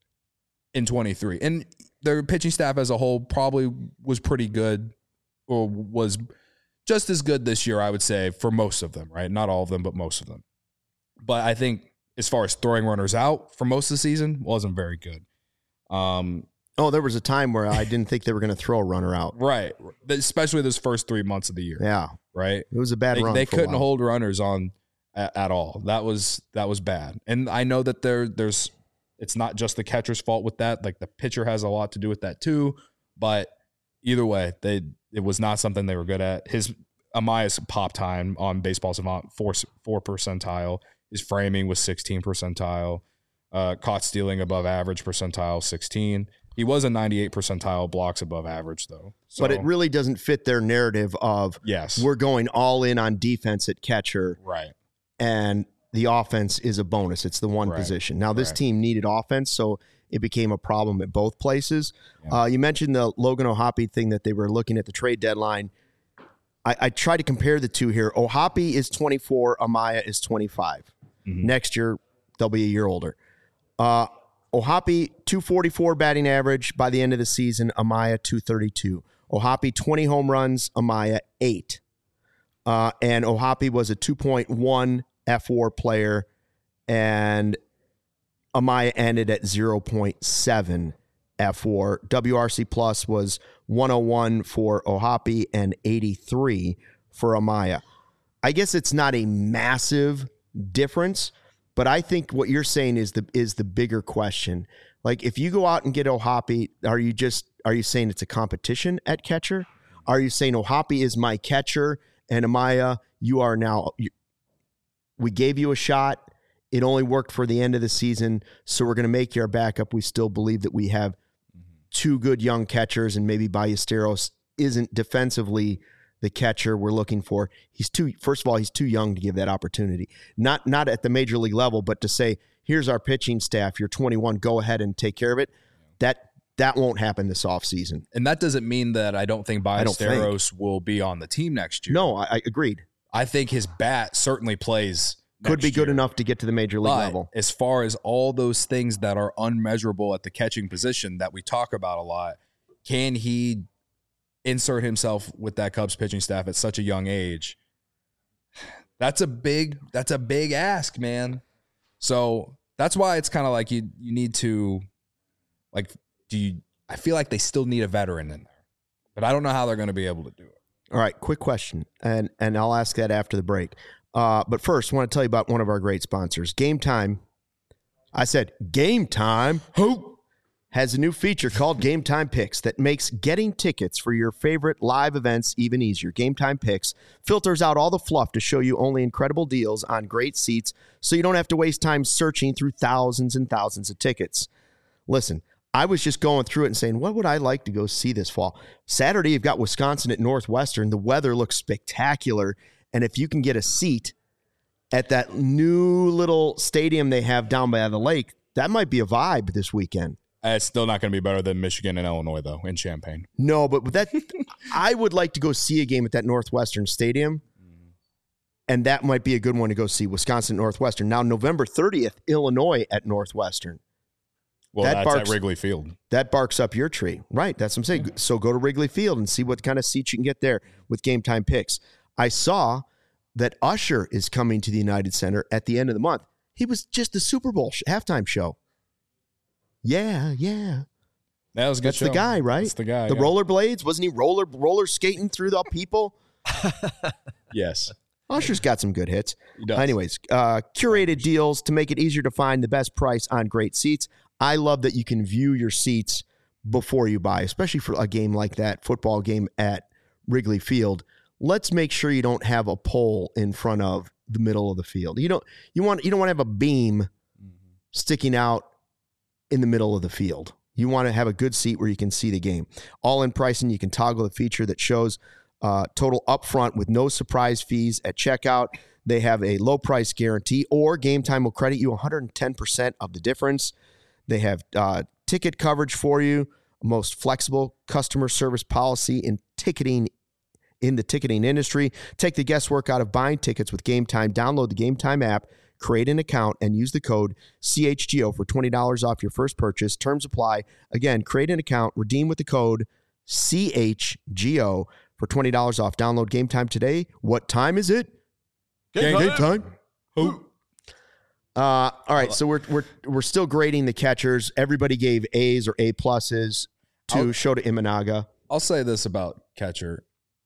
in twenty-three. And their pitching staff as a whole probably was pretty good or was just as good this year, I would say, for most of them, right? Not all of them, but most of them. But I think as far as throwing runners out for most of the season, wasn't very good. Um, oh, there was a time where I didn't think they were going to throw a runner out. Right. Especially those first three months of the year. Yeah. Right? It was a bad they, run. They for a couldn't while. hold runners on at, at all. That was that was bad. And I know that there there's it's not just the catcher's fault with that. Like the pitcher has a lot to do with that too. But either way, they it was not something they were good at. His Amaya's pop time on Baseball Savant, four four percentile. His framing was sixteen percentile. Uh, caught stealing above average percentile, sixteen. He was a ninety-eight percentile blocks above average, though. So, but it really doesn't fit their narrative of yes, we're going all in on defense at catcher. Right. And the offense is a bonus. It's the one Right. position. Now, this Right. team needed offense, so it became a problem at both places. Yeah. Uh, you mentioned the Logan O'Hoppe thing that they were looking at the trade deadline. I, I tried to compare the two here. O'Hoppe is twenty-four. Amaya is twenty-five. Mm-hmm. Next year, they'll be a year older. Uh, O'Hoppe, two forty-four batting average by the end of the season. Amaya, two thirty-two. O'Hoppe, twenty home runs. Amaya, eight. Uh, and O'Hoppe was a two point one F W A R player, and Amaya ended at zero point seven F W A R. W R C plus was one oh one for O'Hoppe and eighty-three for Amaya. I guess it's not a massive difference, but I think what you're saying is the is the bigger question. Like if you go out and get O'Hoppe, are you just are you saying it's a competition at catcher? Are you saying O'Hoppe is my catcher and Amaya, you are now you, we gave you a shot. It only worked for the end of the season, so we're going to make you our backup. We still believe that we have two good young catchers, and maybe Ballesteros isn't defensively the catcher we're looking for. He's too. First of all, he's too young to give that opportunity. Not not at the major league level, but to say, here's our pitching staff. You're twenty-one. Go ahead and take care of it. That that won't happen this offseason. And that doesn't mean that I don't think I don't Ballesteros will be on the team next year. No, I, I agreed. I think his bat certainly plays. Could be good year. enough to get to the major league But level. as far as all those things that are unmeasurable at the catching position that we talk about a lot, can he insert himself with that Cubs pitching staff at such a young age? That's a big, that's a big ask, man. So that's why it's kind of like you you need to, like, do you, I feel like they still need a veteran in there, but I don't know how they're going to be able to do it. All right, quick question, and and I'll ask that after the break. Uh, but first, I want to tell you about one of our great sponsors, Game Time. I said Game Time. Who has a new feature called Game Time Picks that makes getting tickets for your favorite live events even easier. Game Time Picks filters out all the fluff to show you only incredible deals on great seats, so you don't have to waste time searching through thousands and thousands of tickets. Listen, I was just going through it and saying, what would I like to go see this fall? Saturday, you've got Wisconsin at Northwestern. The weather looks spectacular. And if you can get a seat at that new little stadium they have down by the lake, that might be a vibe this weekend. It's still not going to be better than Michigan and Illinois, though, in Champaign. No, but with that, I would like to go see a game at that Northwestern stadium. And that might be a good one to go see, Wisconsin Northwestern. Now, November thirtieth, Illinois at Northwestern. Well, that that's barks, at Wrigley Field. That barks up your tree. Right. That's what I'm saying. So go to Wrigley Field and see what kind of seats you can get there with Game Time Picks. I saw that Usher is coming to the United Center at the end of the month. He was just the Super Bowl sh- halftime show. Yeah, yeah. That was a good That's show. the guy, right? That's the guy. The yeah. rollerblades. Wasn't he roller roller skating through the people? Yes. Usher's got some good hits. He does. Anyways, uh, curated deals to make it easier to find the best price on great seats. I love that you can view your seats before you buy, especially for a game like that, football game at Wrigley Field. Let's make sure you don't have a pole in front of the middle of the field. You don't you want you don't want to have a beam mm-hmm. sticking out in the middle of the field. You want to have a good seat where you can see the game. All in pricing, you can toggle the feature that shows uh, total upfront with no surprise fees at checkout. They have a low price guarantee, or Game Time will credit you one hundred ten percent of the difference. They have uh, ticket coverage for you, most flexible customer service policy in ticketing in the ticketing industry. Take the guesswork out of buying tickets with Game Time. Download the Game Time app, create an account, and use the code C H G O for twenty dollars off your first purchase. Terms apply. Again, create an account, redeem with the code C H G O for twenty dollars off. Download Game Time today. What time is it? Game, Game time. time. Who? Uh, all right, so we're we're we're still grading the catchers. Everybody gave A's or A pluses to I'll, Shota Imanaga. I'll say this about catcher.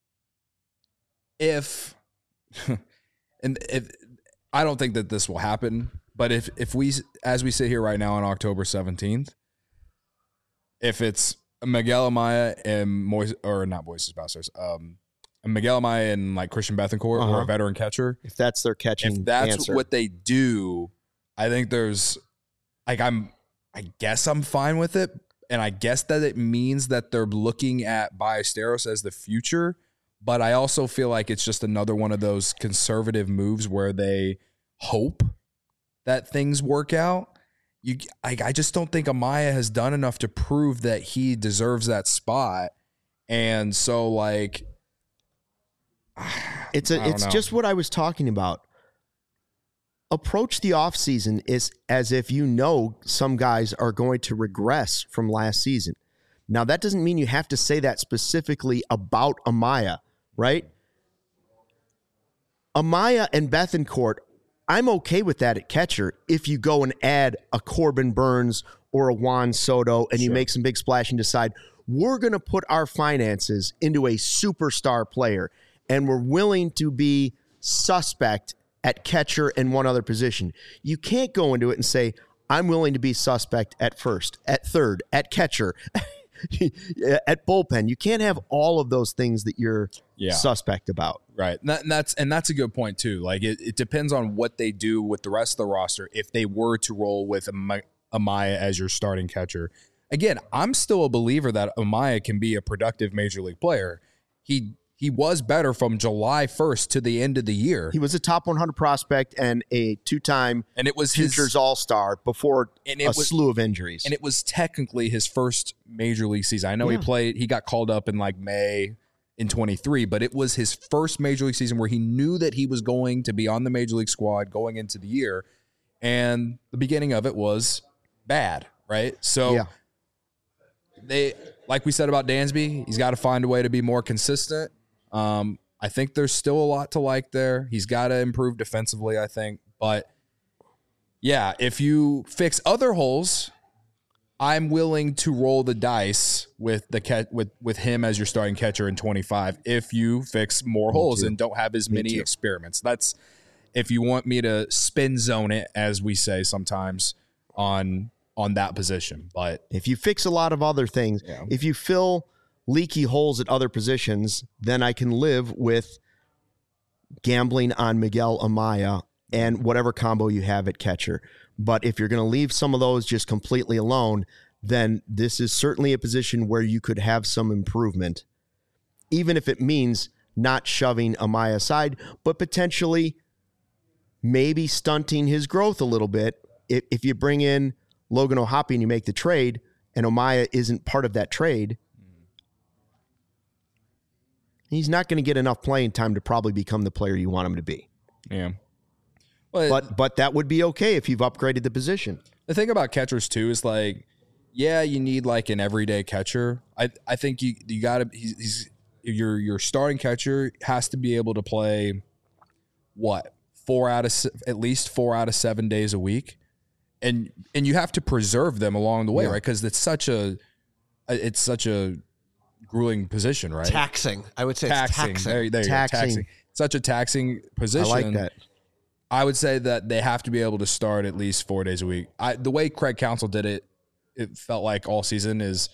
If and if I don't think that this will happen, but if if we as we sit here right now on October seventeenth, if it's Miguel Amaya and Moises, or not Moises Basters, um, Miguel Amaya and like Christian Bethancourt Uh-huh. or a veteran catcher, If that's their catching if that's answer. what they do, I think there's like I'm I guess I'm fine with it. And I guess that it means that they're looking at Ballesteros as the future. But I also feel like it's just another one of those conservative moves where they hope that things work out. You, I, I just don't think Amaya has done enough to prove that he deserves that spot. And so, like, It's a, I don't it's know. just what I was talking about. Approach the offseason is as if you know some guys are going to regress from last season. Now, that doesn't mean you have to say that specifically about Amaya, right? Amaya and Bethancourt, I'm okay with that at catcher if you go and add a Corbin Burns or a Juan Soto and you Sure. make some big splash and decide, we're going to put our finances into a superstar player and we're willing to be suspect at catcher and one other position. You can't go into it and say, I'm willing to be suspect at first, at third, at catcher, at bullpen. You can't have all of those things that you're Yeah. suspect about. Right. And, that, and that's and that's a good point too. Like it, it depends on what they do with the rest of the roster. If they were to roll with Am- Amaya as your starting catcher, again, I'm still a believer that Amaya can be a productive major league player. He he was better from July first to the end of the year. He was a top one hundred prospect and a two-time and it was Futures his, All-Star before and a it was, slew of injuries. and it was technically his first major league season. I know Yeah. he played. He got called up in like May in twenty-three, but it was his first major league season where he knew that he was going to be on the major league squad going into the year, and the beginning of it was bad, right? So Yeah. they, like we said about Dansby, he's got to find a way to be more consistent. Um, I think there's still a lot to like there. He's got to improve defensively, I think, but yeah, if you fix other holes, I'm willing to roll the dice with the cat with with him as your starting catcher in twenty-five. If you fix more Me holes too. and don't have as Me many too. experiments, that's if you want me to spin zone it, as we say sometimes on on that position. But If you fix a lot of other things, Yeah. if you fill leaky holes at other positions, then I can live with gambling on Miguel Amaya and whatever combo you have at catcher. But if you're going to leave some of those just completely alone, then this is certainly a position where you could have some improvement, even if it means not shoving Amaya aside, but potentially maybe stunting his growth a little bit. If, if you bring in Logan O'Hoppe and you make the trade and Amaya isn't part of that trade, he's not going to get enough playing time to probably become the player you want him to be. yeah, well, But but that would be okay if you've upgraded the position. the thing about catchers too is like yeah, you need like an everyday catcher. I I think you you got to he's, he's your your starting catcher has to be able to play what four out of at least four out of seven days a week, and and you have to preserve them along the way, yeah. right? Because it's such a it's such a grueling position, right? Taxing, I would say. Taxing. It's taxing. There, there taxing. You go. Taxing. Such a taxing position. I like that. I would say that they have to be able to start at least four days a week. I, the way Craig Counsell did it, it felt like all season is,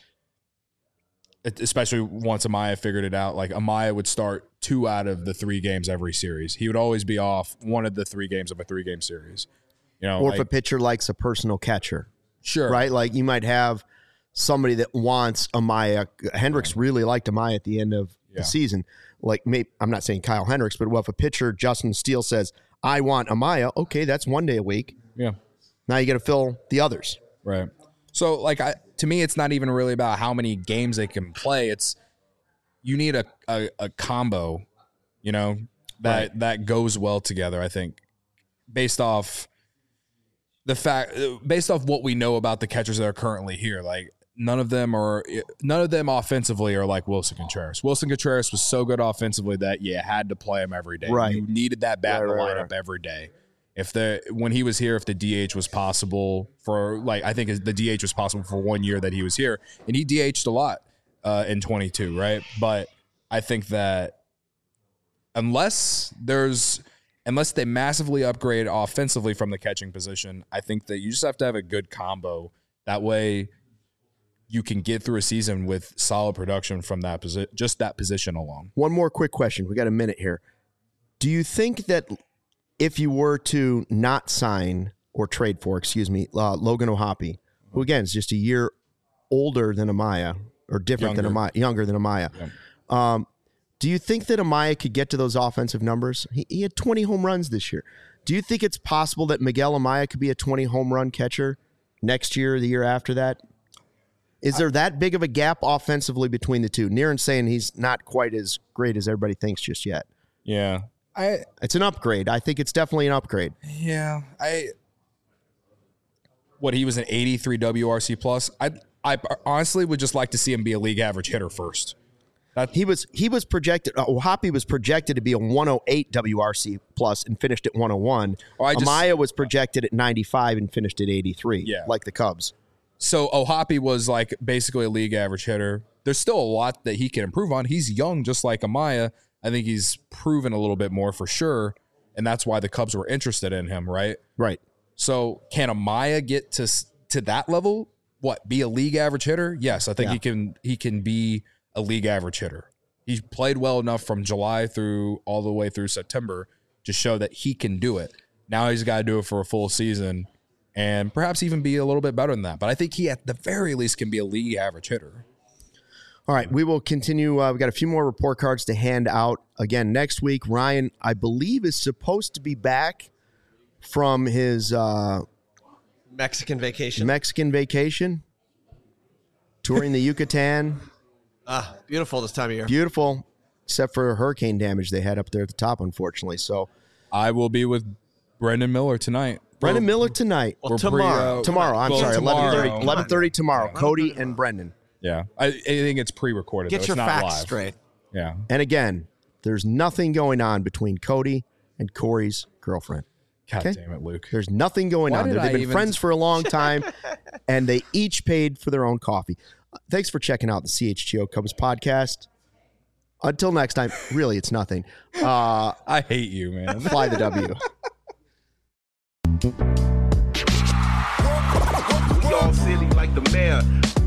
especially once Amaya figured it out, like Amaya would start two out of the three games every series. He would always be off one of the three games of a three-game series. You know, or like, if a pitcher likes a personal catcher. Sure. Right? Like you might have somebody that wants Amaya. Hendricks really liked Amaya at the end of yeah. the season. Like maybe, I'm not saying Kyle Hendricks, but well, if a pitcher, Justin Steele, says, I want Amaya, okay, that's one day a week. Yeah. Now you got to fill the others. Right. So, like, I, to me, it's not even really about how many games they can play. It's you need a, a, a combo, you know, that right. that goes well together, I think, based off the fact, based off what we know about the catchers that are currently here. Like, none of them are, none of them offensively are like Wilson Contreras. Wilson Contreras was so good offensively that you had to play him every day. Right. You needed that bat right, in the right, lineup right. every day. If the when he was here, if the D H was possible for like, I think the D H was possible for one year that he was here, and he D H'd a lot uh, in twenty-two, right? But I think that unless there's unless they massively upgrade offensively from the catching position, I think that you just have to have a good combo. That way, you can get through a season with solid production from that position, just that position alone. One more quick question. We got a minute here. Do you think that if you were to not sign or trade for, excuse me, uh, Logan O'Hoppe, who again is just a year older than Amaya or different younger. than Amaya, younger than Amaya, yeah. um, do you think that Amaya could get to those offensive numbers? He, he had twenty home runs this year. Do you think it's possible that Miguel Amaya could be a twenty home run catcher next year or the year after that? Is there that big of a gap offensively between the two? Niren's saying he's not quite as great as everybody thinks just yet. Yeah. I, it's an upgrade. I think it's definitely an upgrade. Yeah. I what he was an eighty-three W R C plus. I I honestly would just like to see him be a league average hitter first. That, he was he was projected. Uh, O'Hoppe was projected to be a one oh eight W R C plus and finished at one oh one. Oh, I just, Amaya was projected at ninety-five and finished at eighty-three. Yeah. Like the Cubs. So O'Hoppe was like basically a league average hitter. There's still a lot that he can improve on. He's young, just like Amaya. I think he's proven a little bit more for sure, and that's why the Cubs were interested in him, right? Right. So can Amaya get to to that level? What, be a league average hitter? Yes, I think yeah. he can. He can be a league average hitter. He played well enough from July through all the way through September to show that he can do it. Now he's got to do it for a full season, and perhaps even be a little bit better than that. But I think he, at the very least, can be a league average hitter. All right, we will continue. Uh, we've got a few more report cards to hand out. Again, next week, Ryan, I believe, is supposed to be back from his uh, Mexican vacation. Mexican vacation, touring the Yucatan. Ah, beautiful this time of year. Beautiful, except for hurricane damage they had up there at the top, unfortunately. So I will be with Brendan Miller tonight. Brendan Miller tonight. Well, tomorrow. Uh, tomorrow, I'm well, sorry, tomorrow. eleven thirty eleven thirty tomorrow. Cody and Brendan. Yeah, I, I think it's pre-recorded. Get though. your It's not facts live. straight. Yeah. And again, there's nothing going on between Cody and Corey's girlfriend. God Okay? damn it, Luke. There's nothing going Why on did there. They've I been even- friends for a long time, and they each paid for their own coffee. Thanks for checking out the C H G O Cubs podcast. Until next time, really, it's nothing. Uh, I hate you, man. fly the W. We all silly like the mayor.